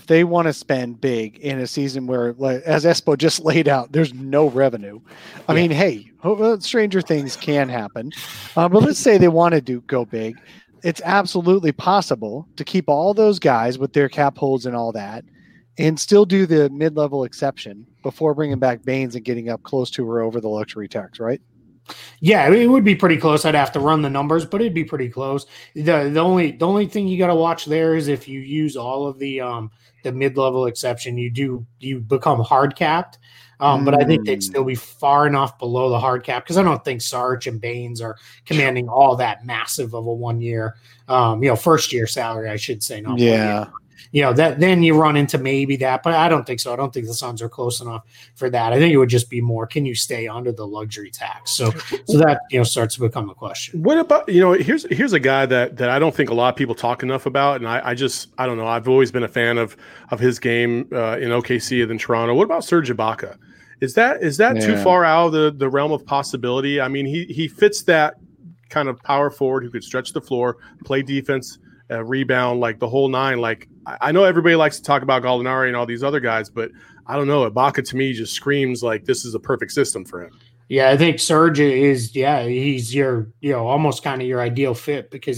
to spend big in a season where, like, as Espo just laid out, there's no revenue. I mean, hey, stranger things can happen. But let's say they want to go big. It's absolutely possible to keep all those guys with their cap holds and all that, and still do the mid-level exception before bringing back Baines and getting up close to or over the luxury tax, right? Yeah, it would be pretty close. I'd have to run the numbers, but it'd be pretty close. The only thing you got to watch there is if you use all of the mid-level exception, you become hard capped. But I think they'd still be far enough below the hard cap, because I don't think Sarge and Baines are commanding all that massive of a 1 year, first year salary, I should say. Not 1 year. That then you run into maybe that, but I don't think so. I don't think the Suns are close enough for that. I think it would just be more, can you stay under the luxury tax? So that starts to become a question. What about here's a guy that I don't think a lot of people talk enough about, and I don't know. I've always been a fan of his game in OKC than Toronto. What about Serge Ibaka? Is that too far out of the realm of possibility? I mean, he fits that kind of power forward who could stretch the floor, play defense, rebound, like the whole nine. Like, I know everybody likes to talk about Gallinari and all these other guys, but I don't know. Ibaka to me just screams like this is a perfect system for him. Yeah, I think Serge is. Yeah, he's your almost kind of your ideal fit, because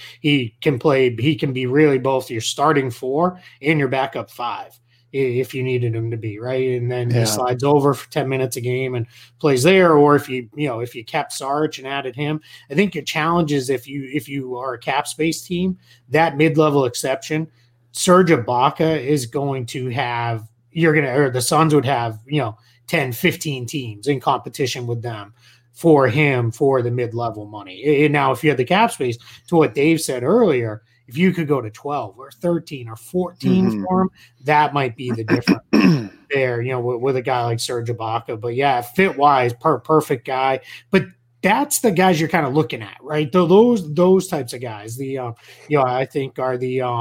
he can be really both your starting four and your backup five if you needed him to be, right? And then he slides over for 10 minutes a game and plays there. Or if you kept Sarge and added him, I think your challenge is if you are a cap space team, that mid-level exception, Serge Ibaka is going to have, the Suns would have, 10, 15 teams in competition with them for him for the mid-level money. And now if you had the cap space, to what Dave said earlier, if you could go to 12 or 13 or 14 for him, that might be the difference there, with a guy like Serge Ibaka. But yeah, fit-wise, perfect guy. But that's the guys you're kind of looking at, right? Those types of guys. I think are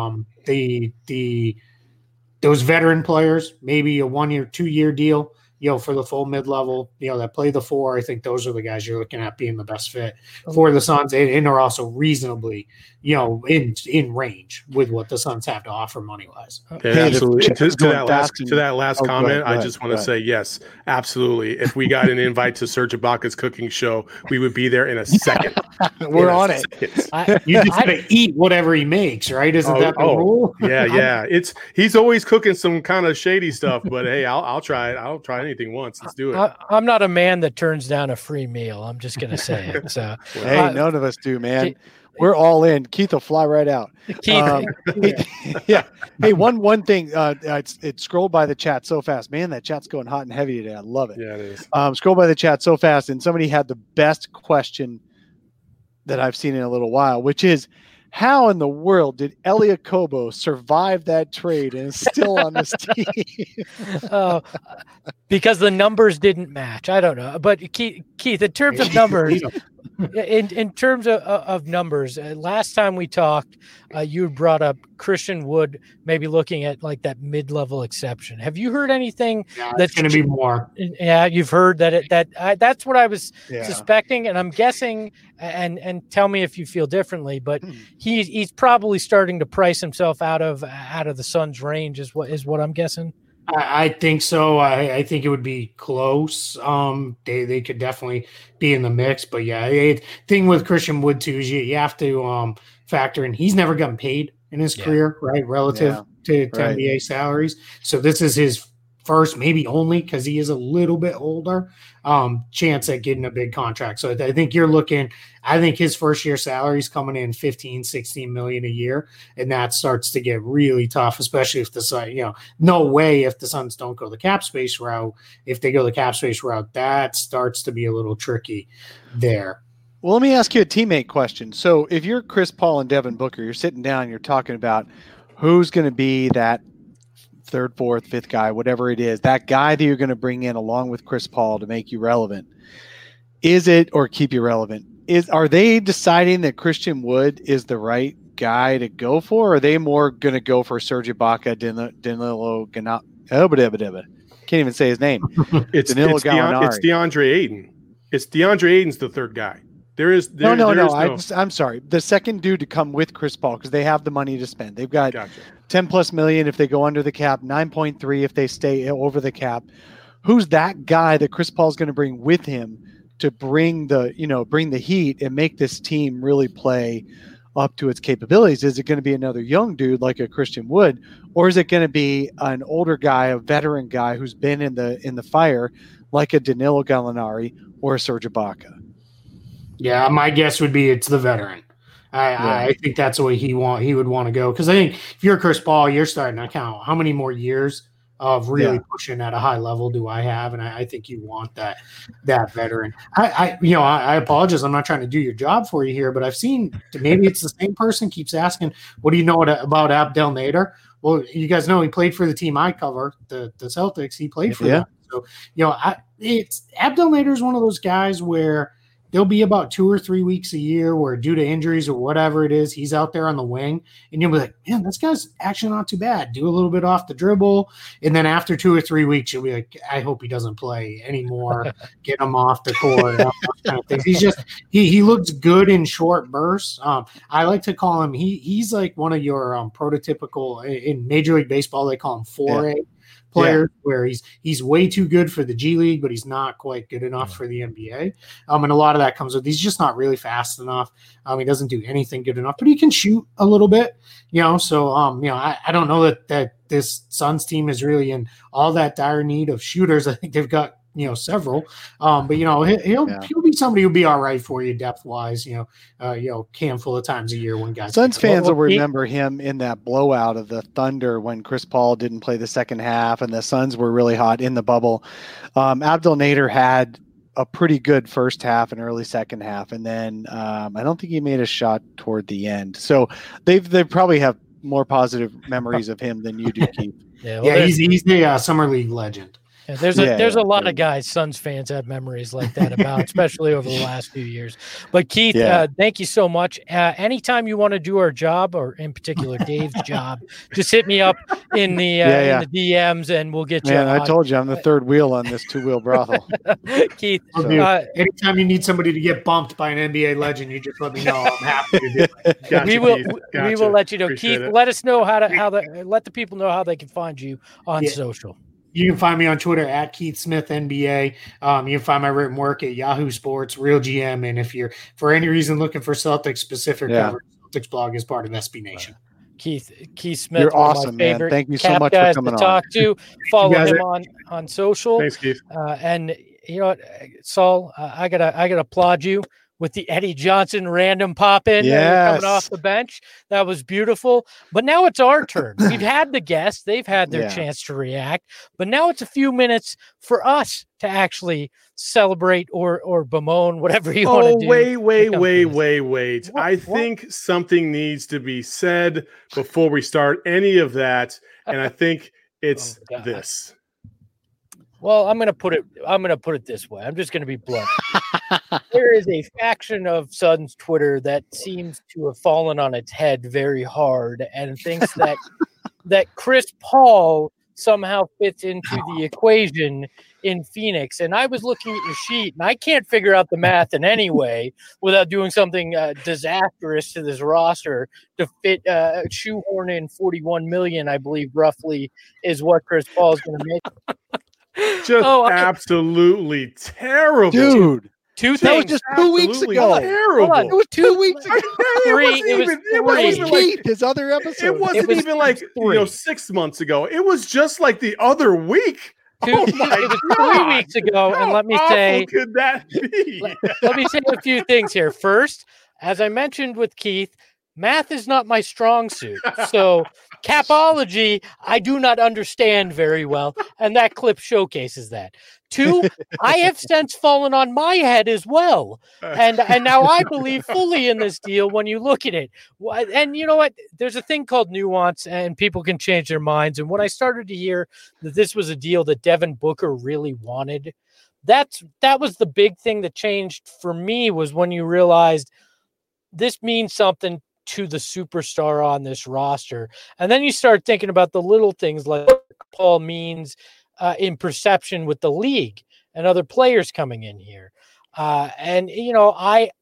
those veteran players, maybe a 1 year, 2 year deal, for the full mid-level, that play the four. I think those are the guys you're looking at being the best fit for the Suns, and are also reasonably, in range with what the Suns have to offer money-wise. Yeah, absolutely. To that last comment, I just want to say, yes, absolutely. If we got an invite to Serge Ibaka's cooking show, we would be there in a second. We're on it. You just got to eat whatever he makes, right? Isn't that the rule? Yeah. He's always cooking some kind of shady stuff, but hey, I'll try it. I'll try anything once. Let's do it. I'm not a man that turns down a free meal. I'm just going to say it. So, hey, none of us do, man. We're all in. Keith will fly right out. Keith, yeah. Hey, one thing. It scrolled by the chat so fast, man. That chat's going hot and heavy today. I love it. Yeah, it is. Scroll by the chat so fast, and somebody had the best question that I've seen in a little while, which is, how in the world did Elia Kobo survive that trade and is still on this team? Because the numbers didn't match. I don't know. But Keith, in terms of numbers, in terms of numbers, last time we talked, you brought up Christian Wood maybe looking at like that mid-level exception. Have you heard anything that's going to be more? Yeah, you've heard that's what I was suspecting, and I'm guessing. And tell me if you feel differently, but he's probably starting to price himself out of the Suns' range, is what I'm guessing. I think so. I think it would be close. They could definitely be in the mix, but yeah, thing with Christian Wood too is you have to factor in he's never gotten paid in his career, right? Relative to NBA salaries. So this is his first, maybe only, because he is a little bit older, chance at getting a big contract. So I think I think his first year salary is coming in 15, 16 million a year. And that starts to get really tough, especially if no way if the Suns don't go the cap space route. If they go the cap space route, that starts to be a little tricky there. Well, let me ask you a teammate question. So if you're Chris Paul and Devin Booker, you're sitting down, you're talking about who's going to be that third, fourth, fifth guy, whatever it is, that guy that you're going to bring in along with Chris Paul to make you relevant. Is it, or keep you relevant? Are they deciding that Christian Wood is the right guy to go for? Or are they more going to go for Serge Ibaka, Danilo Gallinari? Can't even say his name. It's DeAndre Ayton. It's DeAndre Ayton's the third guy. No. I'm sorry. The second dude to come with Chris Paul, because they have the money to spend. They've got 10 plus million if they go under the cap, 9.3 if they stay over the cap. Who's that guy that Chris Paul's going to bring with him to bring the heat and make this team really play up to its capabilities? Is it going to be another young dude like a Christian Wood, or is it going to be an older guy, a veteran guy who's been in the fire like a Danilo Gallinari or a Serge Ibaka? Yeah, my guess would be it's the veteran. I think that's the way he would want to go, because I think if you're Chris Paul, you're starting to count how many more years of really pushing at a high level do I have, and I think you want that veteran. I apologize, I'm not trying to do your job for you here, but I've seen, maybe it's the same person keeps asking, what do you know about Abdel Nader? Well, you guys know he played for the team I cover, the Celtics. He played for them. So Abdel Nader is one of those guys where there'll be about 2 or 3 weeks a year where, due to injuries or whatever it is, he's out there on the wing, and you'll be like, man, this guy's actually not too bad. Do a little bit off the dribble. And then after 2 or 3 weeks, you'll be like, I hope he doesn't play anymore. Get him off the court. Kind of things. He's just, he looks good in short bursts. I like to call him, he's like one of your prototypical, in Major League Baseball, they call him 4A. Player where he's way too good for the G League, but he's not quite good enough for the NBA. And a lot of that comes with, he's just not really fast enough. He doesn't do anything good enough, but he can shoot a little bit, So, I don't know that this Suns team is really in all that dire need of shooters. I think they've got, several, but he'll be somebody who'll be all right for you depth wise, handful of times a year when guys. Suns fans will remember him in that blowout of the Thunder when Chris Paul didn't play the second half and the Suns were really hot in the bubble. Abdel Nader had a pretty good first half and early second half, and then I don't think he made a shot toward the end. So they probably have more positive memories of him than you do, Keith. He's the summer league legend. Yeah, there's a lot of guys Suns fans have memories like that about, especially over the last few years. But Keith, thank you so much. Anytime you want to do our job, or in particular Dave's job, just hit me up in the DMs and we'll get you. Man, I told you I'm the third wheel on this 2-wheel brothel. Keith, anytime you need somebody to get bumped by an NBA legend, you just let me know. I'm happy to do it. Gotcha, we will let you know. Appreciate Keith, let us know let the people know how they can find you on social. You can find me on Twitter at Keith Smith NBA. You can find my written work at Yahoo Sports, Real GM. And if you're, for any reason, looking for Celtics specific coverage, Celtics blog is part of SB Nation. Keith Smith. You're one awesome, of my man. favorite Thank you so Cap much for guys coming to on. talk to. Follow guys him are- on social. Thanks, Keith. And you know what, Saul, I gotta applaud you with the Eddie Johnson random pop in coming off the bench. That was beautiful. But now it's our turn. We've had the guests; they've had their chance to react. But now it's a few minutes for us to actually celebrate or bemoan whatever you want to do. Wait. I think something needs to be said before we start any of that, and I think it's this. Well, I'm gonna put it this way. I'm just gonna be blunt. There is a faction of Suns Twitter that seems to have fallen on its head very hard and thinks that Chris Paul somehow fits into the equation in Phoenix. And I was looking at your sheet, and I can't figure out the math in any way without doing something disastrous to this roster to fit shoehorn in $41 million, I believe, roughly, is what Chris Paul is going to make. Just absolutely terrible, dude. Two that things. was just 2 weeks ago. Terrible. It was 2 weeks ago. It wasn't even like his other episode. It wasn't even like 6 months ago. It was just like the other week. It was 3 weeks ago, and let me say, could that be? Let me say a few things here. First, as I mentioned with Keith, math is not my strong suit. So capology, I do not understand very well, and that clip showcases that. Two, I have since fallen on my head as well, and now I believe fully in this deal when you look at it. And you know what? There's a thing called nuance, and people can change their minds. And when I started to hear that this was a deal that Devin Booker really wanted, that was the big thing that changed for me, was when you realized this means something to the superstar on this roster. And then you start thinking about the little things like what Paul means in perception with the league and other players coming in here. And, you know,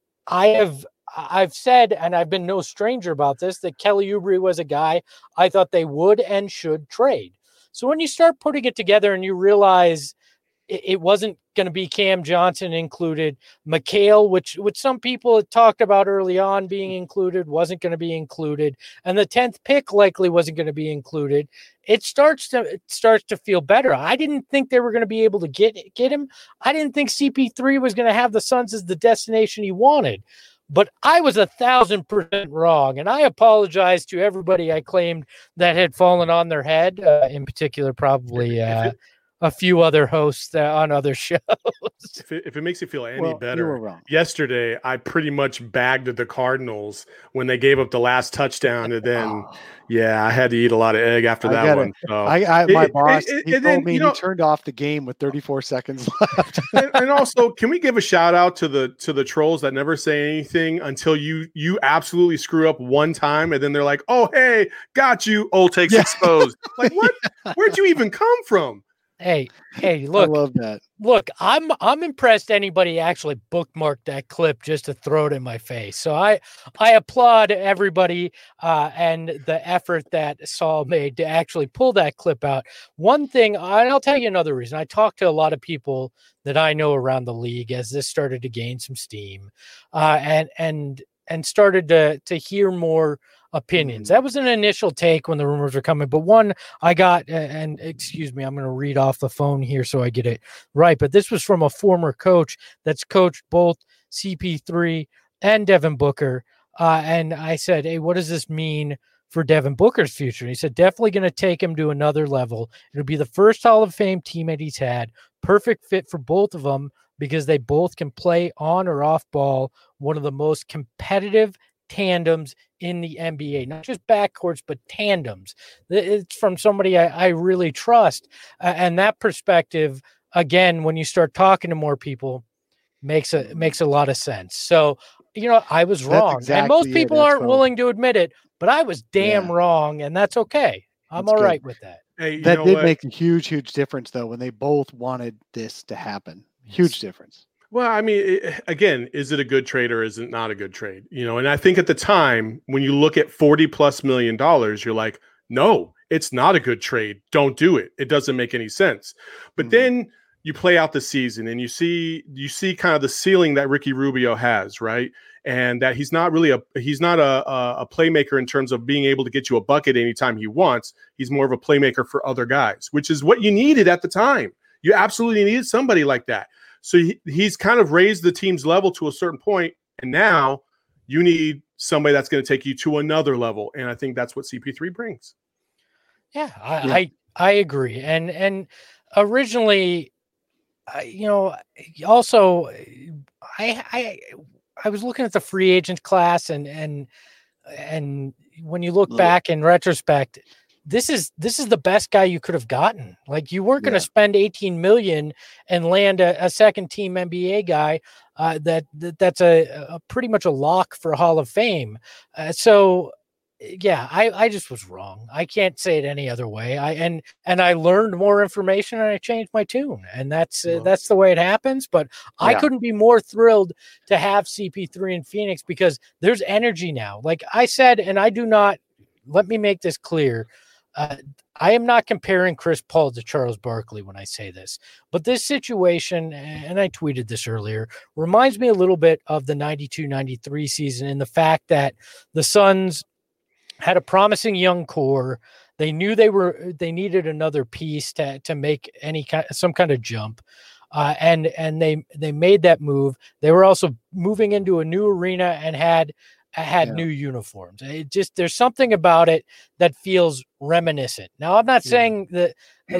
I've said, and I've been no stranger about this, that Kelly Oubre was a guy I thought they would and should trade. So when you start putting it together and you realize it wasn't going to be Cam Johnson included, Mikal, which some people had talked about early on being included, wasn't going to be included, and the 10th pick likely wasn't going to be included, it starts to feel better. I didn't think they were going to be able to get him. I didn't think CP3 was going to have the Suns as the destination he wanted. But I was 1,000% wrong, and I apologize to everybody I claimed that had fallen on their head, in particular probably a few other hosts on other shows. If it makes you feel any better, yesterday I pretty much bagged the Cardinals when they gave up the last touchdown, and then I had to eat a lot of egg after that one. So my boss told me he turned off the game with 34 seconds left. and also, can we give a shout out to the trolls that never say anything until you absolutely screw up one time, and then they're like, "Oh, hey, got you, old takes exposed." Like, what? Where'd you even come from? Hey, look. I love that. Look, I'm impressed anybody actually bookmarked that clip just to throw it in my face. So I applaud everybody and the effort that Saul made to actually pull that clip out. One thing, and I'll tell you another reason. I talked to a lot of people that I know around the league as this started to gain some steam, and started to hear more opinions. That was an initial take when the rumors were coming, but one I got, and excuse me, I'm going to read off the phone here so I get it right, but this was from a former coach that's coached both CP3 and Devin Booker, and I said, hey, what does this mean for Devin Booker's future? And he said, definitely going to take him to another level. It'll be the first Hall of Fame teammate he's had. Perfect fit for both of them because they both can play on or off ball, one of the most competitive tandems in the NBA, not just backcourts, but tandems. It's from somebody I really trust. And that perspective, again, when you start talking to more people, makes a lot of sense. So, you know, I was wrong. Exactly, and most people aren't willing to admit it, but I was damn wrong, and that's okay. I'm all right with that. Hey, that did make a huge difference, though, when they both wanted this to happen. Huge difference. Well, I mean, again, is it a good trade or is it not a good trade? You know, and I think at the time when you look at $40+ million, you're like, no, it's not a good trade. Don't do it. It doesn't make any sense. But then you play out the season and you see kind of the ceiling that Ricky Rubio has, right? And that he's not a playmaker in terms of being able to get you a bucket anytime he wants. He's more of a playmaker for other guys, which is what you needed at the time. You absolutely needed somebody like that. So he's kind of raised the team's level to a certain point, and now you need somebody that's going to take you to another level. And I think that's what CP3 brings. Yeah, I agree. And originally, also I was looking at the free agent class, and when you look back in retrospect, this is the best guy you could have gotten. Like, you weren't going to spend $18 million and land a second team NBA guy that's a pretty much a lock for Hall of Fame. I just was wrong. I can't say it any other way. I learned more information and I changed my tune, and that's the way it happens. But I couldn't be more thrilled to have CP3 in Phoenix because there's energy now. Like I said, and I do not, let me make this clear. I am not comparing Chris Paul to Charles Barkley when I say this, but this situation, and I tweeted this earlier, reminds me a little bit of the 92-93 season in the fact that the Suns had a promising young core. They knew they needed another piece to make some kind of jump. And they made that move. They were also moving into a new arena and had new uniforms. There's something about it that feels reminiscent. Now, I'm not saying that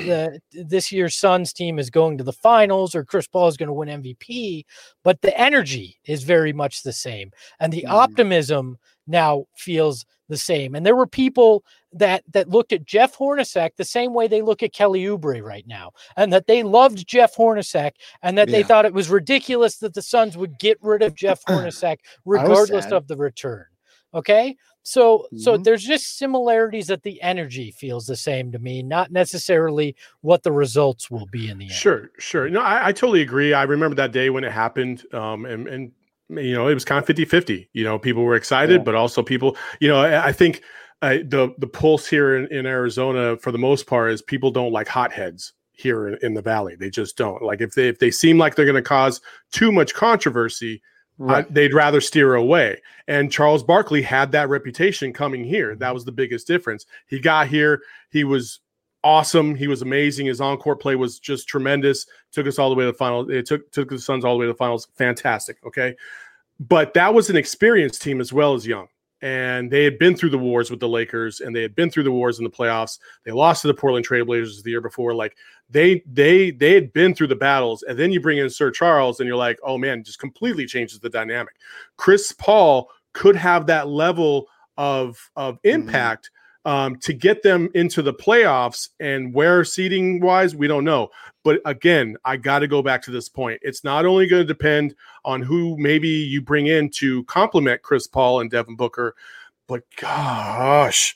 this year's Suns team is going to the finals or Chris Paul is going to win MVP, but the energy is very much the same. And the optimism now feels the same. And there were people that looked at Jeff Hornacek the same way they look at Kelly Oubre right now, and that they loved Jeff Hornacek, and that they thought it was ridiculous that the Suns would get rid of Jeff Hornacek regardless of the return. Okay. So there's just similarities that the energy feels the same to me, not necessarily what the results will be in the end. Sure. No, I totally agree. I remember that day when it happened. And it was kind of 50-50. People were excited, but also people, I think the pulse here in Arizona, for the most part, is people don't like hotheads here in the Valley. They just don't. Like, if they seem like they're going to cause too much controversy, they'd rather steer away. And Charles Barkley had that reputation coming here. That was the biggest difference. He got here. He was awesome. He was amazing. His on-court play was just tremendous. Took us all the way to the finals. It took the Suns all the way to the finals. Fantastic. Okay. But that was an experienced team as well as young. And they had been through the wars with the Lakers, and they had been through the wars in the playoffs. They lost to the Portland Trailblazers the year before. Like, they had been through the battles. And then you bring in Sir Charles, and you're like, oh man, just completely changes the dynamic. Chris Paul could have that level of impact to get them into the playoffs, and where seeding wise, we don't know. But again, I got to go back to this point. It's not only going to depend on who maybe you bring in to complement Chris Paul and Devin Booker, but gosh,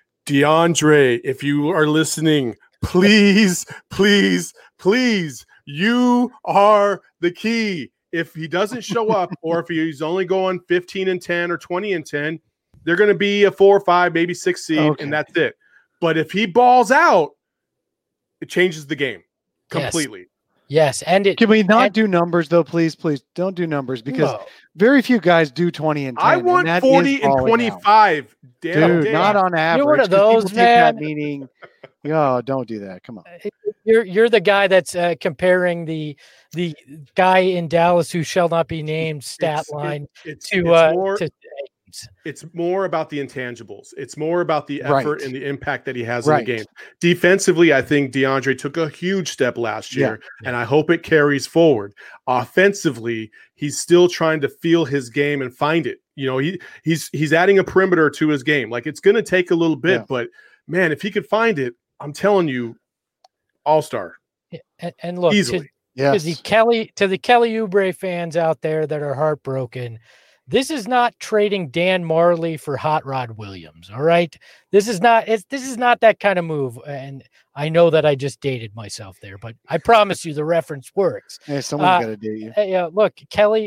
DeAndre, if you are listening, please, you are the key. If he doesn't show up, or if he's only going 15-10 or 20-10, they're going to be a 4 or 5, maybe 6 seed, and that's it. But if he balls out, it changes the game completely. Yes. And can we not do numbers though? Please don't do numbers, because very few guys do 20 and 10. I want 40 and 25. Dude, not on average. You're one of those, man. Meaning, don't do that. Come on. You're the guy that's comparing the guy in Dallas who shall not be named stat line to it's more about the intangibles. It's more about the effort and the impact that he has in the game. Defensively, I think DeAndre took a huge step last year, and I hope it carries forward. Offensively, he's still trying to feel his game and find it. He's adding a perimeter to his game. Like, it's going to take a little bit, but man, if he could find it, I'm telling you, all-star. And look, easily. To the Kelly Oubre fans out there that are heartbroken, this is not trading Dan Marley for Hot Rod Williams. All right. This is not that kind of move. And I know that I just dated myself there, but I promise you the reference works. Yeah, someone's got to date you. Look, Kelly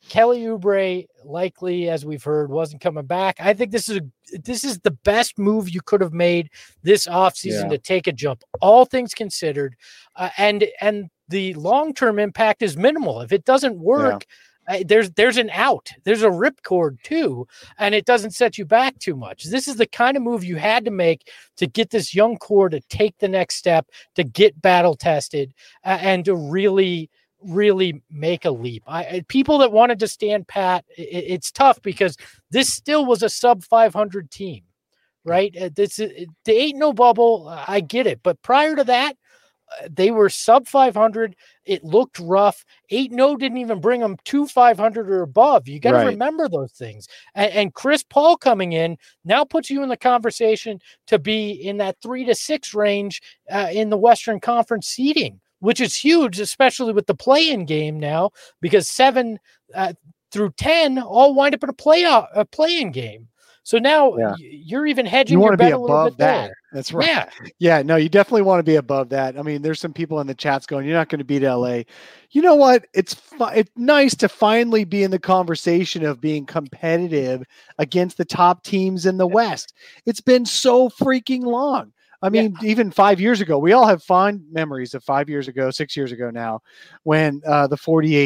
Kelly Oubre likely, as we've heard, wasn't coming back. I think this is the best move you could have made this offseason to take a jump, all things considered. And the long-term impact is minimal. If it doesn't work, there's an out. There's a ripcord too, and it doesn't set you back too much. This is the kind of move you had to make to get this young core to take the next step, to get battle tested, and to really make a leap. People that wanted to stand pat, it's tough because this still was a sub 500 team, right? The 8-0 bubble, I get it, but prior to that, they were sub 500. It looked rough. 8-0 didn't even bring them to 500 or above. You got to remember those things. And Chris Paul coming in now puts you in the conversation to be in that 3 to 6 range in the Western Conference seeding, which is huge, especially with the play-in game now, because 7 through 10 all wind up in a play-in game. So now you're even hedging your bet a little bit that. There. That's right. Yeah. No, you definitely want to be above that. I mean, there's some people in the chats going, you're not going to beat LA. You know what? It's nice to finally be in the conversation of being competitive against the top teams in the West. It's been so freaking long. I mean, even 5 years ago, we all have fond memories of 5 years ago, 6 years ago now, when the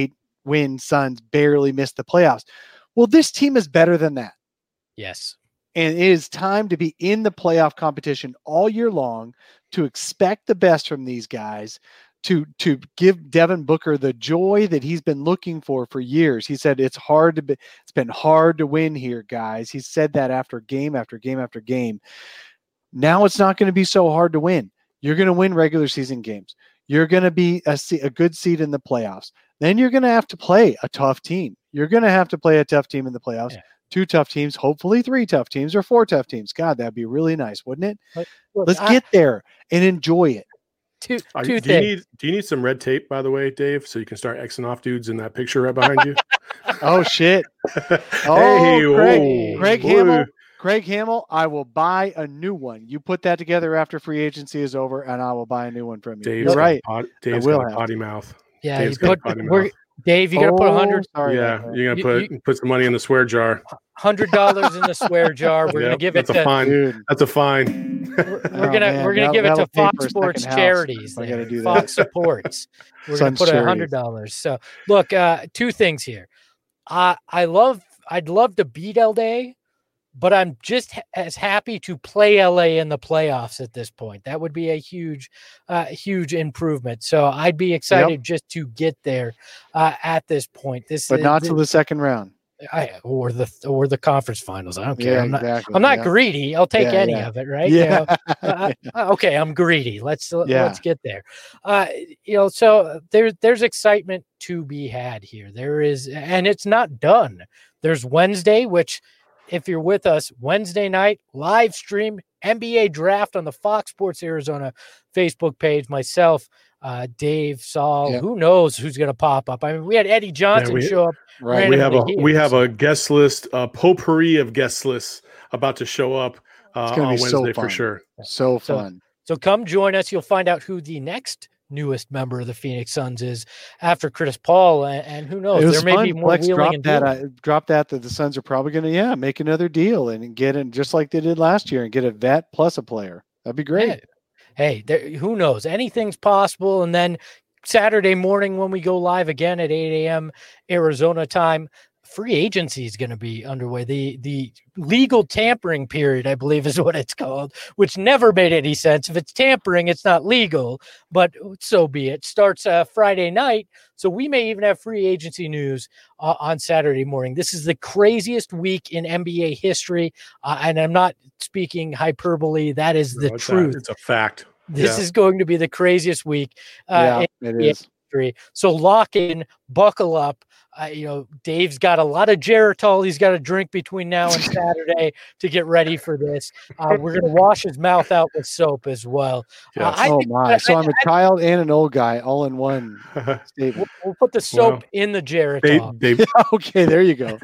48-win Suns barely missed the playoffs. Well, this team is better than that. Yes. And it is time to be in the playoff competition all year long, to expect the best from these guys, to give Devin Booker the joy that he's been looking for years. He said it's been hard to win here, guys. He said that after game after game after game. Now it's not going to be so hard to win. You're going to win regular season games. You're going to be a good seed in the playoffs. Then you're going to have to play a tough team. You're going to have to play a tough team in the playoffs. Yeah. 2 tough teams, hopefully 3 tough teams or 4 tough teams. God, that'd be really nice, wouldn't it? Let's get there and enjoy it. Do you need some red tape, by the way, Dave, so you can start Xing off dudes in that picture right behind you? Oh, shit. Craig Hamill, I will buy a new one. You put that together after free agency is over, and I will buy a new one from you. Dave's You're right. Dave's got a potty mouth. Yeah, Dave, you got to put 100. You're gonna put some money in the swear jar. $100 in the swear jar. We're gonna give it to That's a fine. We're gonna give it to Fox Sports charities. Fox supports. We're gonna put $100. So look, 2 things here. I'd love to beat LA, but I'm just as happy to play LA in the playoffs at this point. That would be a huge improvement. So I'd be excited just to get there at this point. But not to the second round. Or the conference finals. I don't care. I'm not greedy. I'll take any of it, right? Yeah. Okay, I'm greedy. Let's get there. So there's excitement to be had here. There is, and it's not done. There's Wednesday, which, if you're with us, Wednesday night live stream NBA draft on the Fox Sports Arizona Facebook page. Myself, Dave, Saul, who knows who's going to pop up? I mean, we had Eddie Johnson show up. Right. We have a guest list, a potpourri of guest lists about to show up on Wednesday for sure. So fun. So come join us. You'll find out who the next newest member of the Phoenix Suns is after Chris Paul, and who knows, there may be more wheeling and dealing. Drop that the Suns are probably going to make another deal and get in just like they did last year and get a vet plus a player. That'd be great. Hey, who knows? Anything's possible. And then Saturday morning when we go live again at 8 a.m. Arizona time, free agency is going to be underway. The legal tampering period, I believe, is what it's called, which never made any sense. If it's tampering, it's not legal, but so be it. Starts Friday night, so we may even have free agency news on Saturday morning. This is the craziest week in NBA history, and I'm not speaking hyperbole. That is the truth. It's a fact. This is going to be the craziest week in it history. So lock in, buckle up. Dave's got a lot of Geritol he's got to drink between now and Saturday to get ready for this. We're going to wash his mouth out with soap as well. Yes. So I'm a child and an old guy all in one statement. We'll put the soap in the Geritol. Okay, there you go.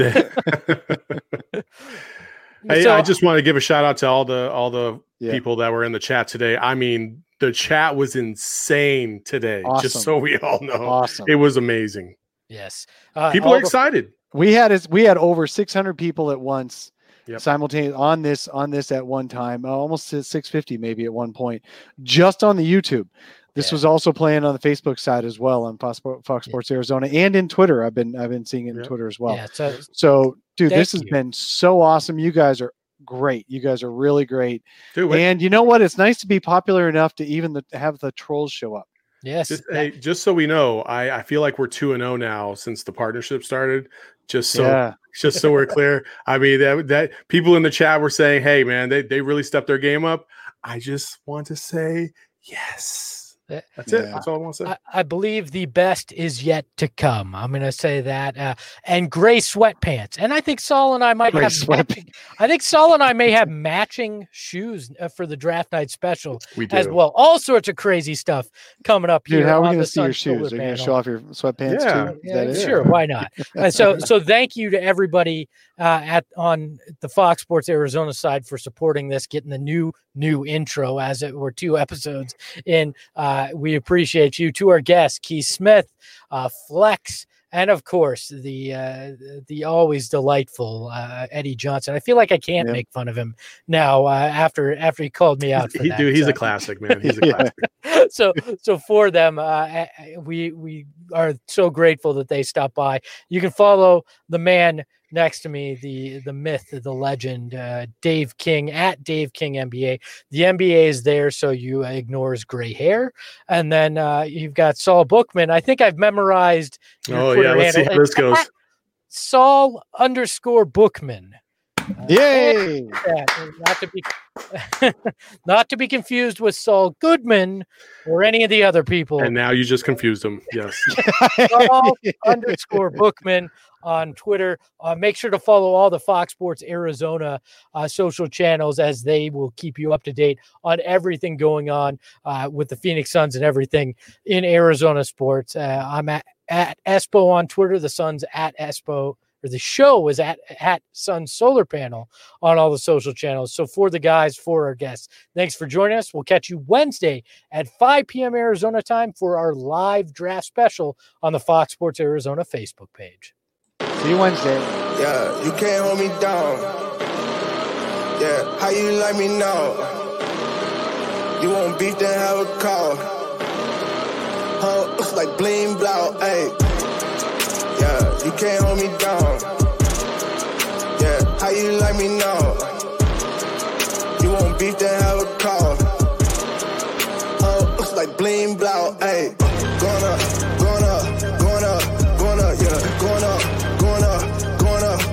I just want to give a shout out to all the people that were in the chat today. I mean, the chat was insane today. Awesome. Just so we all know, it was amazing. Yes, people are excited. We had over 600 people at once. Yep. Simultaneous on this at one time, almost 650 maybe at one point, just on the YouTube. This was also playing on the Facebook side as well on Fox Sports Arizona and in Twitter. I've been seeing it in Twitter as well. Yeah, so dude, this has been so awesome. You guys are great. You guys are really great. Dude, and you know what? It's nice to be popular enough to even have the trolls show up. Yes. Just so we know, I feel like we're 2-0 now since the partnership started. Just so we're clear. I mean, that people in the chat were saying, hey man, they really stepped their game up. I just want to say yes. That's it. That's all I want to say. I believe the best is yet to come. I'm going to say that. And gray sweatpants. And I think Saul and I might have Saul and I may have matching shoes for the draft night special as well. All sorts of crazy stuff coming up here. Dude, how are we going to see your shoes? Are you going to show off your sweatpants too? Yeah, sure. Why not? So thank you to everybody on the Fox Sports Arizona side for supporting this, getting the new intro as it were 2 episodes in. We appreciate you. To our guests, Keith Smith, Flex, and of course the always delightful Eddie Johnson. I feel like I can't make fun of him now after he called me out. For that. Dude, he's a classic, man. He's a classic. So for them, we are so grateful that they stopped by. You can follow the man next to me, the myth, the legend, Dave King at Dave King NBA. The NBA is there, so you ignore his gray hair. And then you've got Saul Bookman. I think I've memorized your Twitter let's handle. see how this goes. Saul_Bookman. Yay! Not to be confused with Saul Goodman or any of the other people. And now you just confused him. Yes. Saul_Bookman on Twitter. Make sure to follow all the Fox Sports Arizona social channels, as they will keep you up to date on everything going on with the Phoenix Suns and everything in Arizona sports. I'm at Espo on Twitter. The Suns at Espo. Or the show is at Sun Solar Panel on all the social channels. So for the guys, for our guests, thanks for joining us. We'll catch you Wednesday at 5 p.m. Arizona time for our live draft special on the Fox Sports Arizona Facebook page. See you Wednesday. Yeah, you can't hold me down. Yeah, how you like me now? You want beef, then have a call. It's like bling blow, ayy. Yeah, you can't hold me down. Yeah, how you like me now? You want beef, then have a call. It's like bling blow, ayy. Going up, yeah. Going up, yeah. Going up, yeah. Going up,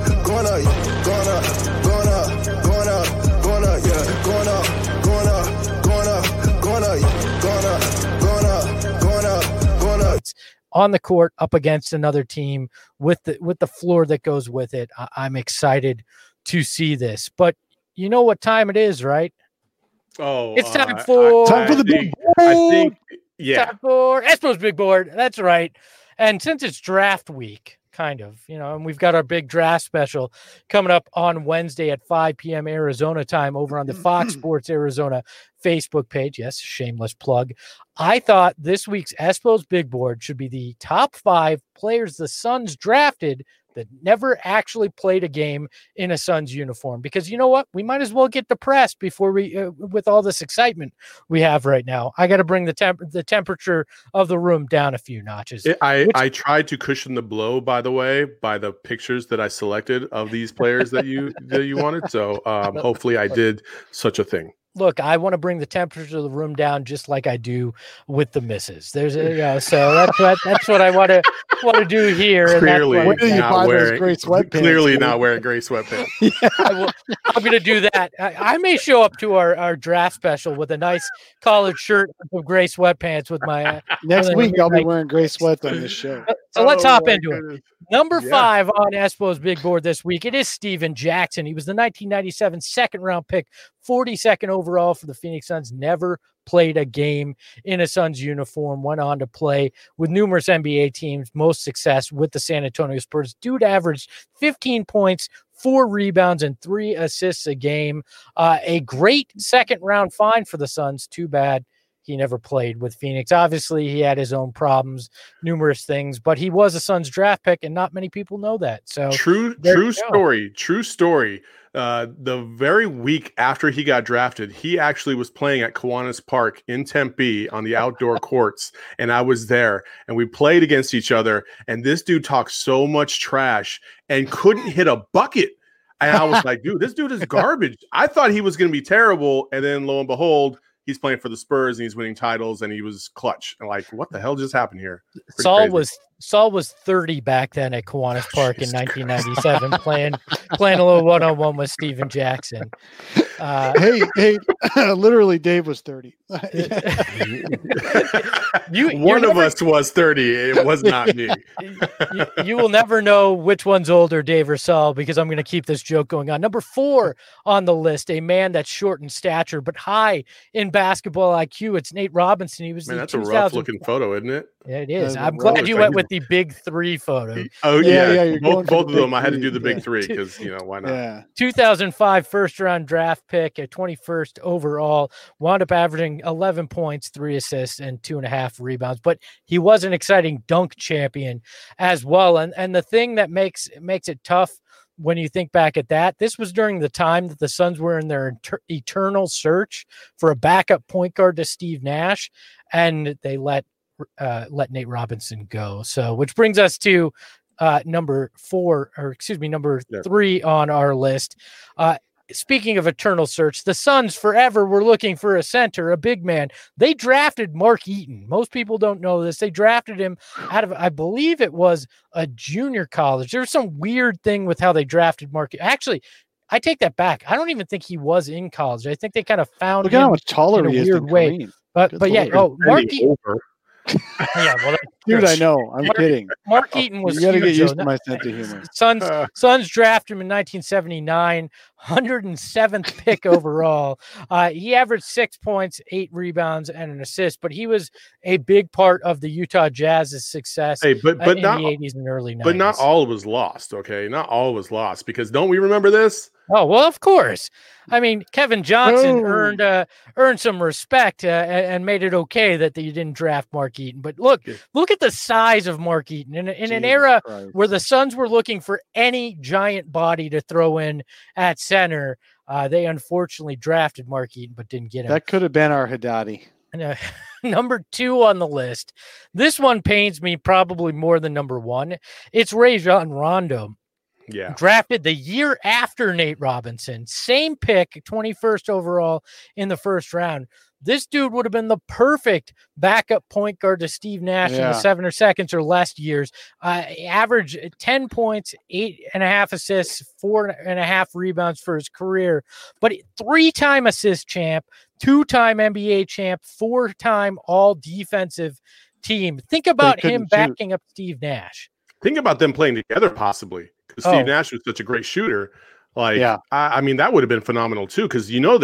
yeah. On the court up against another team with the floor that goes with it. I'm excited to see this, but you know what time it is, right? Oh, it's time for the big board. I think, yeah. Time for Espo's big board. That's right. And since it's draft week, kind of, and we've got our big draft special coming up on Wednesday at 5 p.m. Arizona time over on the Fox Sports Arizona Facebook page. Yes, shameless plug. I thought this week's Espo's big board should be the top 5 players the Suns drafted that never actually played a game in a Suns uniform, because you know what? We might as well get depressed before with all this excitement we have right now. I got to bring the temperature of the room down a few notches. I tried to cushion the blow, by the way, by the pictures that I selected of these players that you wanted. So hopefully I did such a thing. Look, I want to bring the temperature of the room down just like I do with the misses. There's so that's what I want to do here. Clearly, and that's not wearing gray sweatpants. Clearly not wearing gray sweatpants. I'm going to do that. I may show up to our draft special with a nice collared shirt with gray sweatpants with my next week. I'll be wearing gray sweats on this show. So let's hop into it. Number 5 on Espo's big board this week, it is Steven Jackson. He was the 1997 second-round pick, 42nd overall for the Phoenix Suns. Never played a game in a Suns uniform. Went on to play with numerous NBA teams. Most success with the San Antonio Spurs. Dude averaged 15 points, 4 rebounds, and 3 assists a game. A great second-round find for the Suns. Too bad He never played with Phoenix. Obviously, he had his own problems, numerous things, but he was a Suns draft pick, and not many people know that. So true story. The very week after he got drafted, he actually was playing at Kiwanis Park in Tempe on the outdoor courts, and I was there, and we played against each other, and this dude talked so much trash and couldn't hit a bucket. And I was like, dude, this dude is garbage. I thought he was going to be terrible, and then lo and behold, he's playing for the Spurs and he's winning titles, and he was clutch. And like, what the hell just happened here? Saul was 30 back then at Kiwanis Park in 1997, playing a little one-on-one with Steven Jackson. Hey, literally, Dave was 30. One of us was 30. It was not me. You will never know which one's older, Dave or Saul, because I'm going to keep this joke going on. Number 4 on the list, a man that's short in stature but high in basketball IQ. It's Nate Robinson. He was that's a rough-looking photo, isn't it? Yeah, it is. I'm glad you went with the big 3 photo. Oh yeah. Both of them. I had to do the big 3 because why not? Yeah. 2005 first-round draft pick at 21st overall. Wound up averaging 11 points, 3 assists, and 2.5 rebounds. But he was an exciting dunk champion as well. And the thing that makes it tough when you think back at that, this was during the time that the Suns were in their eternal search for a backup point guard to Steve Nash, and they let Nate Robinson go. So, which brings us to number 3 on our list. Speaking of eternal search, the Suns forever were looking for a center, a big man. They drafted Mark Eaton. Most people don't know this. They drafted him out of, I believe it was a junior college. There was some weird thing with how they drafted Mark. Actually, I take that back. I don't even think he was in college. I think they kind of found Look him at how much taller in a he is weird than way. Kareem. But yeah, Mark Eaton. Yeah, well, dude, I know. I'm kidding. Mark Eaton was. You got to get used though. to my sense of humor. Suns drafted him in 1979, 107th pick overall. He averaged 6 points, 8 rebounds, and an assist. But he was a big part of the Utah Jazz's success. But in not the 80s and early 90s. But not all was lost. Okay, not all was lost because don't we remember this? Oh, well, of course. I mean, Kevin Johnson earned some respect and made it okay that you didn't draft Mark Eaton. But look at the size of Mark Eaton. In an era where the Suns were looking for any giant body to throw in at center, they unfortunately drafted Mark Eaton but didn't get him. That could have been our Haddadi. Number 2 on the list. This one pains me probably more than number 1. It's Rajon Rondo. Yeah. Drafted the year after Nate Robinson. Same pick, 21st overall in the first round. This dude would have been the perfect backup point guard to Steve Nash in the 7 or seconds or less years. Average 10 points, 8.5 assists, 4.5 rebounds for his career. But 3-time assist champ, 2-time NBA champ, 4-time all defensive team. Think about him backing up Steve Nash. Think about them playing together possibly. Because Steve Nash was such a great shooter. I mean, that would have been phenomenal too. Because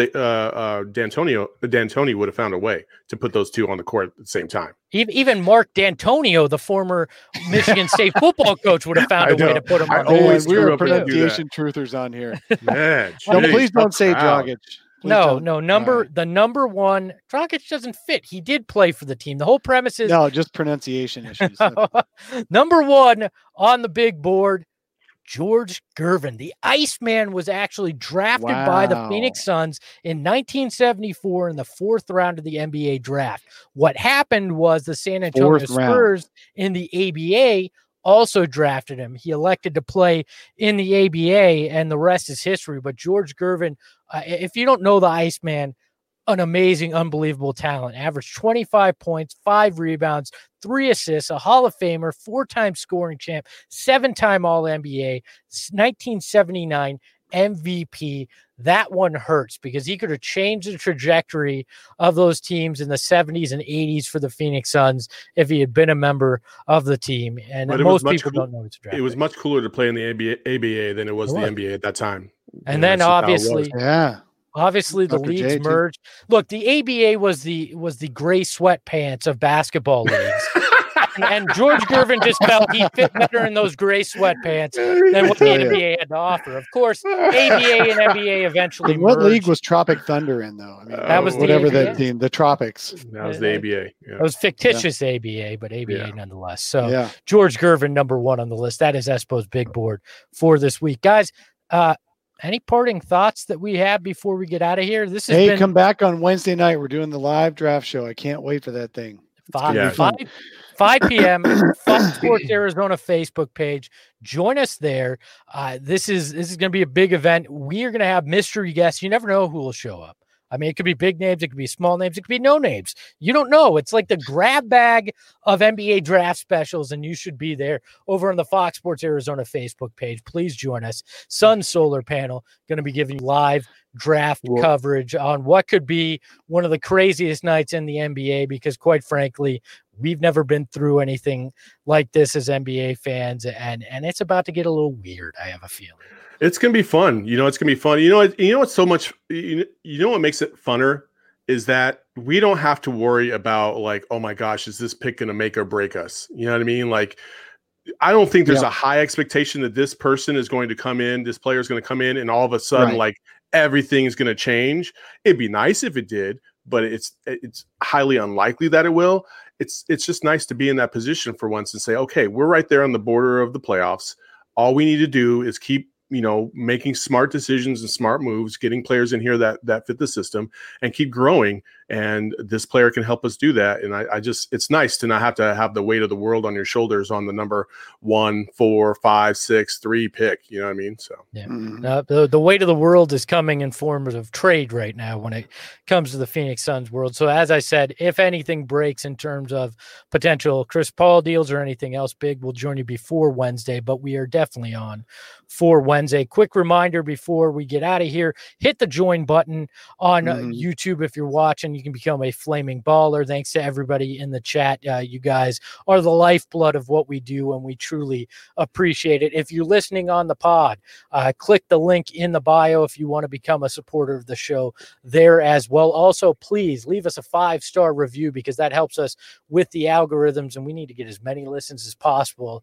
D'Antoni would have found a way to put those two on the court at the same time. Even Mark D'Antonio, the former Michigan State football coach, would have found a way to put him on. We are pronunciation truthers on here. Man, please don't say Dragic. No. The number 1, Dragic doesn't fit. He did play for the team. The whole premise is just pronunciation issues. Number 1 on the big board. George Gervin. The Iceman was actually drafted by the Phoenix Suns in 1974 in the 4th round of the NBA draft. What happened was the San Antonio Spurs in the ABA also drafted him. He elected to play in the ABA, and the rest is history. But George Gervin, if you don't know the Iceman, an amazing, unbelievable talent. Averaged 25 points, 5 rebounds, 3 assists, a Hall of Famer, 4-time scoring champ, 7-time All-NBA, 1979 MVP. That one hurts because he could have changed the trajectory of those teams in the 70s and 80s for the Phoenix Suns if he had been a member of the team. And most people don't know it's a draft. It was much cooler to play in the ABA than it was the NBA at that time. And then obviously the leagues merged. Look, the ABA was the gray sweatpants of basketball leagues. and George Gervin just felt he fit better in those gray sweatpants than what the NBA had to offer. Of course, ABA and NBA eventually What merged. league was Tropic Thunder in, though? I mean, that was whatever the that team, the Tropics. That was the ABA. Yeah. It was fictitious ABA, but ABA Yeah. nonetheless. So Yeah. George Gervin, number 1 on the list. That is Espo's big board for this week. Guys, any parting thoughts that we have before we get out of here? This has been Come back on Wednesday night. We're doing the live draft show. I can't wait for that thing. 5 p.m. Fox Sports Arizona Facebook page. Join us there. This is going to be a big event. We are going to have mystery guests. You never know who will show up. I mean, it could be big names, it could be small names, it could be no names. You don't know. It's like the grab bag of NBA draft specials, and you should be there over on the Fox Sports Arizona Facebook page. Please join us. Sun Solar Panel going to be giving you live draft coverage on what could be one of the craziest nights in the NBA, because quite frankly, we've never been through anything like this as NBA fans, and it's about to get a little weird, I have a feeling. It's gonna be fun. It's gonna be fun. What's so much. You know what makes it funner is that we don't have to worry about like, oh my gosh, is this pick gonna make or break us? You know what I mean? Like, I don't think there's a high expectation that this person is going to come in. This player is going to come in, and all of a sudden, like everything is going to change. It'd be nice if it did, but it's highly unlikely that it will. It's just nice to be in that position for once and say, okay, we're right there on the border of the playoffs. All we need to do is keep making smart decisions and smart moves, getting players in here that fit the system, and keep growing. And this player can help us do that. And it's nice to not have to have the weight of the world on your shoulders on the number 1, 4, 5, 6, 3 pick. You know what I mean? So the weight of the world is coming in forms of trade right now when it comes to the Phoenix Suns world. So as I said, if anything breaks in terms of potential Chris Paul deals or anything else big, we'll join you before Wednesday, but we are definitely on for Wednesday. Quick reminder before we get out of here, hit the join button on YouTube if you're watching. You can become a flaming baller. Thanks to everybody in the chat. You guys are the lifeblood of what we do, and we truly appreciate it. If you're listening on the pod, click the link in the bio if you want to become a supporter of the show there as well. Also, please leave us a 5-star review, because that helps us with the algorithms, and we need to get as many listens as possible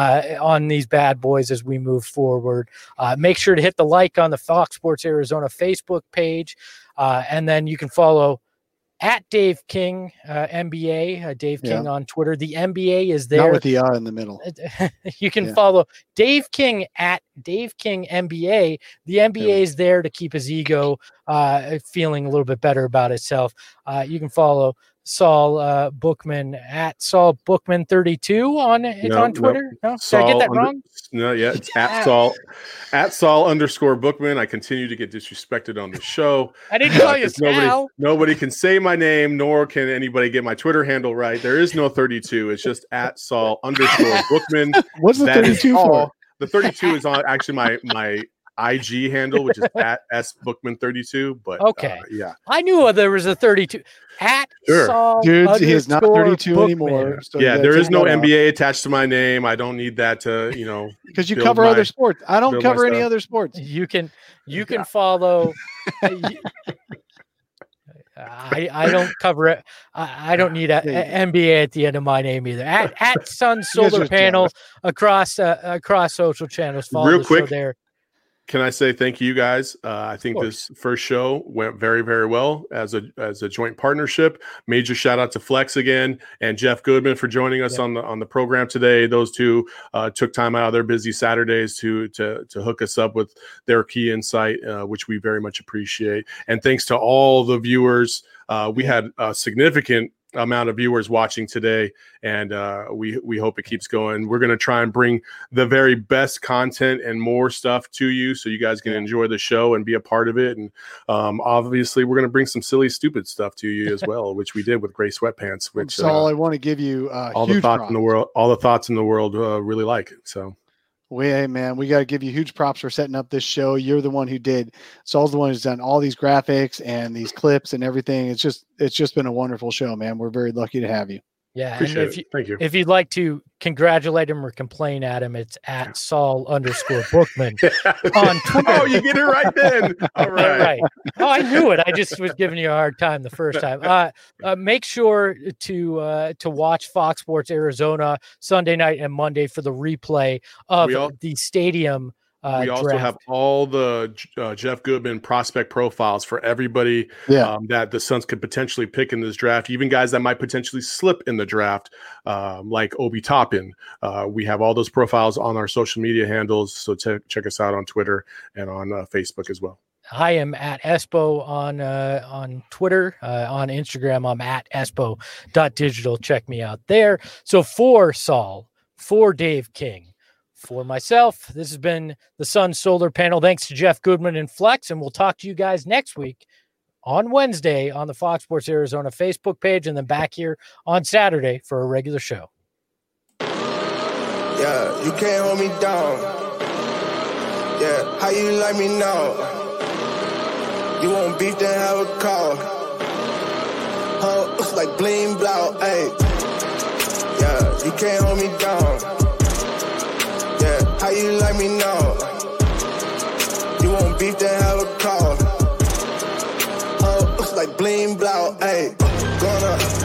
on these bad boys as we move forward. Make sure to hit the like on the Fox Sports Arizona Facebook page, and then you can follow at Dave King NBA, Dave King on Twitter. The NBA is there. Not with the in the middle. You can follow Dave King at Dave King NBA. The NBA is there to keep his ego feeling a little bit better about itself. You can follow Saul Bookman at Saul Bookman 32 on Twitter. No, did I get that wrong? No, it's at Saul @Saul_Bookman. I continue to get disrespected on the show. I didn't call you Sal. Nobody can say my name, nor can anybody get my Twitter handle right. There is no 32. It's just at @Saul_Bookman. What's the 32 for? The 32 is on actually my IG handle, which is at @SBookman32. But okay, I knew there was a 32 at Saul. Dude, he is not 32 Bookman anymore. So there is no NBA attached to my name. I don't need that to because you cover other sports. I don't cover any other sports. You can follow. I don't cover it. I don't need a NBA at the end of my name either. At Sun Solar Panel across social channels. Follow real the quick show there. Can I say thank you guys? I think this first show went very, very well as a joint partnership. Major shout out to Flex again and Jeff Goodman for joining us on the program today. Those two took time out of their busy Saturdays to hook us up with their key insight, which we very much appreciate. And thanks to all the viewers. We had a significant amount of viewers watching today, and we hope it keeps going. We're going to try and bring the very best content and more stuff to you so you guys can enjoy the show and be a part of it. And obviously we're going to bring some silly, stupid stuff to you as well, which we did with Gray Sweatpants, which Saul, I want to give you all the thoughts in the world really like it. So hey man, we got to give you huge props for setting up this show. You're the one who did. Saul's the one who's done all these graphics and these clips and everything. It's just been a wonderful show, man. We're very lucky to have you. Yeah, Appreciate and Thank you. If you'd like to congratulate him or complain at him, it's at Saul_Bookman on Twitter. Oh, you get it right then. All right. Oh, I knew it. I just was giving you a hard time the first time. Make sure to watch Fox Sports Arizona Sunday night and Monday for the replay of the stadium. We also draft. have all the Jeff Goodman prospect profiles for everybody that the Suns could potentially pick in this draft, even guys that might potentially slip in the draft, like Obi Toppin. We have all those profiles on our social media handles, so check us out on Twitter and on Facebook as well. I am at Espo on Twitter. On Instagram, I'm at espo.digital. Check me out there. So for Saul, for Dave King, for myself, this has been the Sun Solar Panel. Thanks to Jeff Goodman and Flex, and we'll talk to you guys next week on Wednesday on the Fox Sports Arizona Facebook page, and then back here on Saturday for a regular show. Yeah, you can't hold me down. Yeah, how you like me now? You want beef, then have a call. It's like bling blow, ayy. Yeah, you can't hold me down. Yeah, how you like me now? You want beef, then have a call. It's like bling blow, ayy. Gonna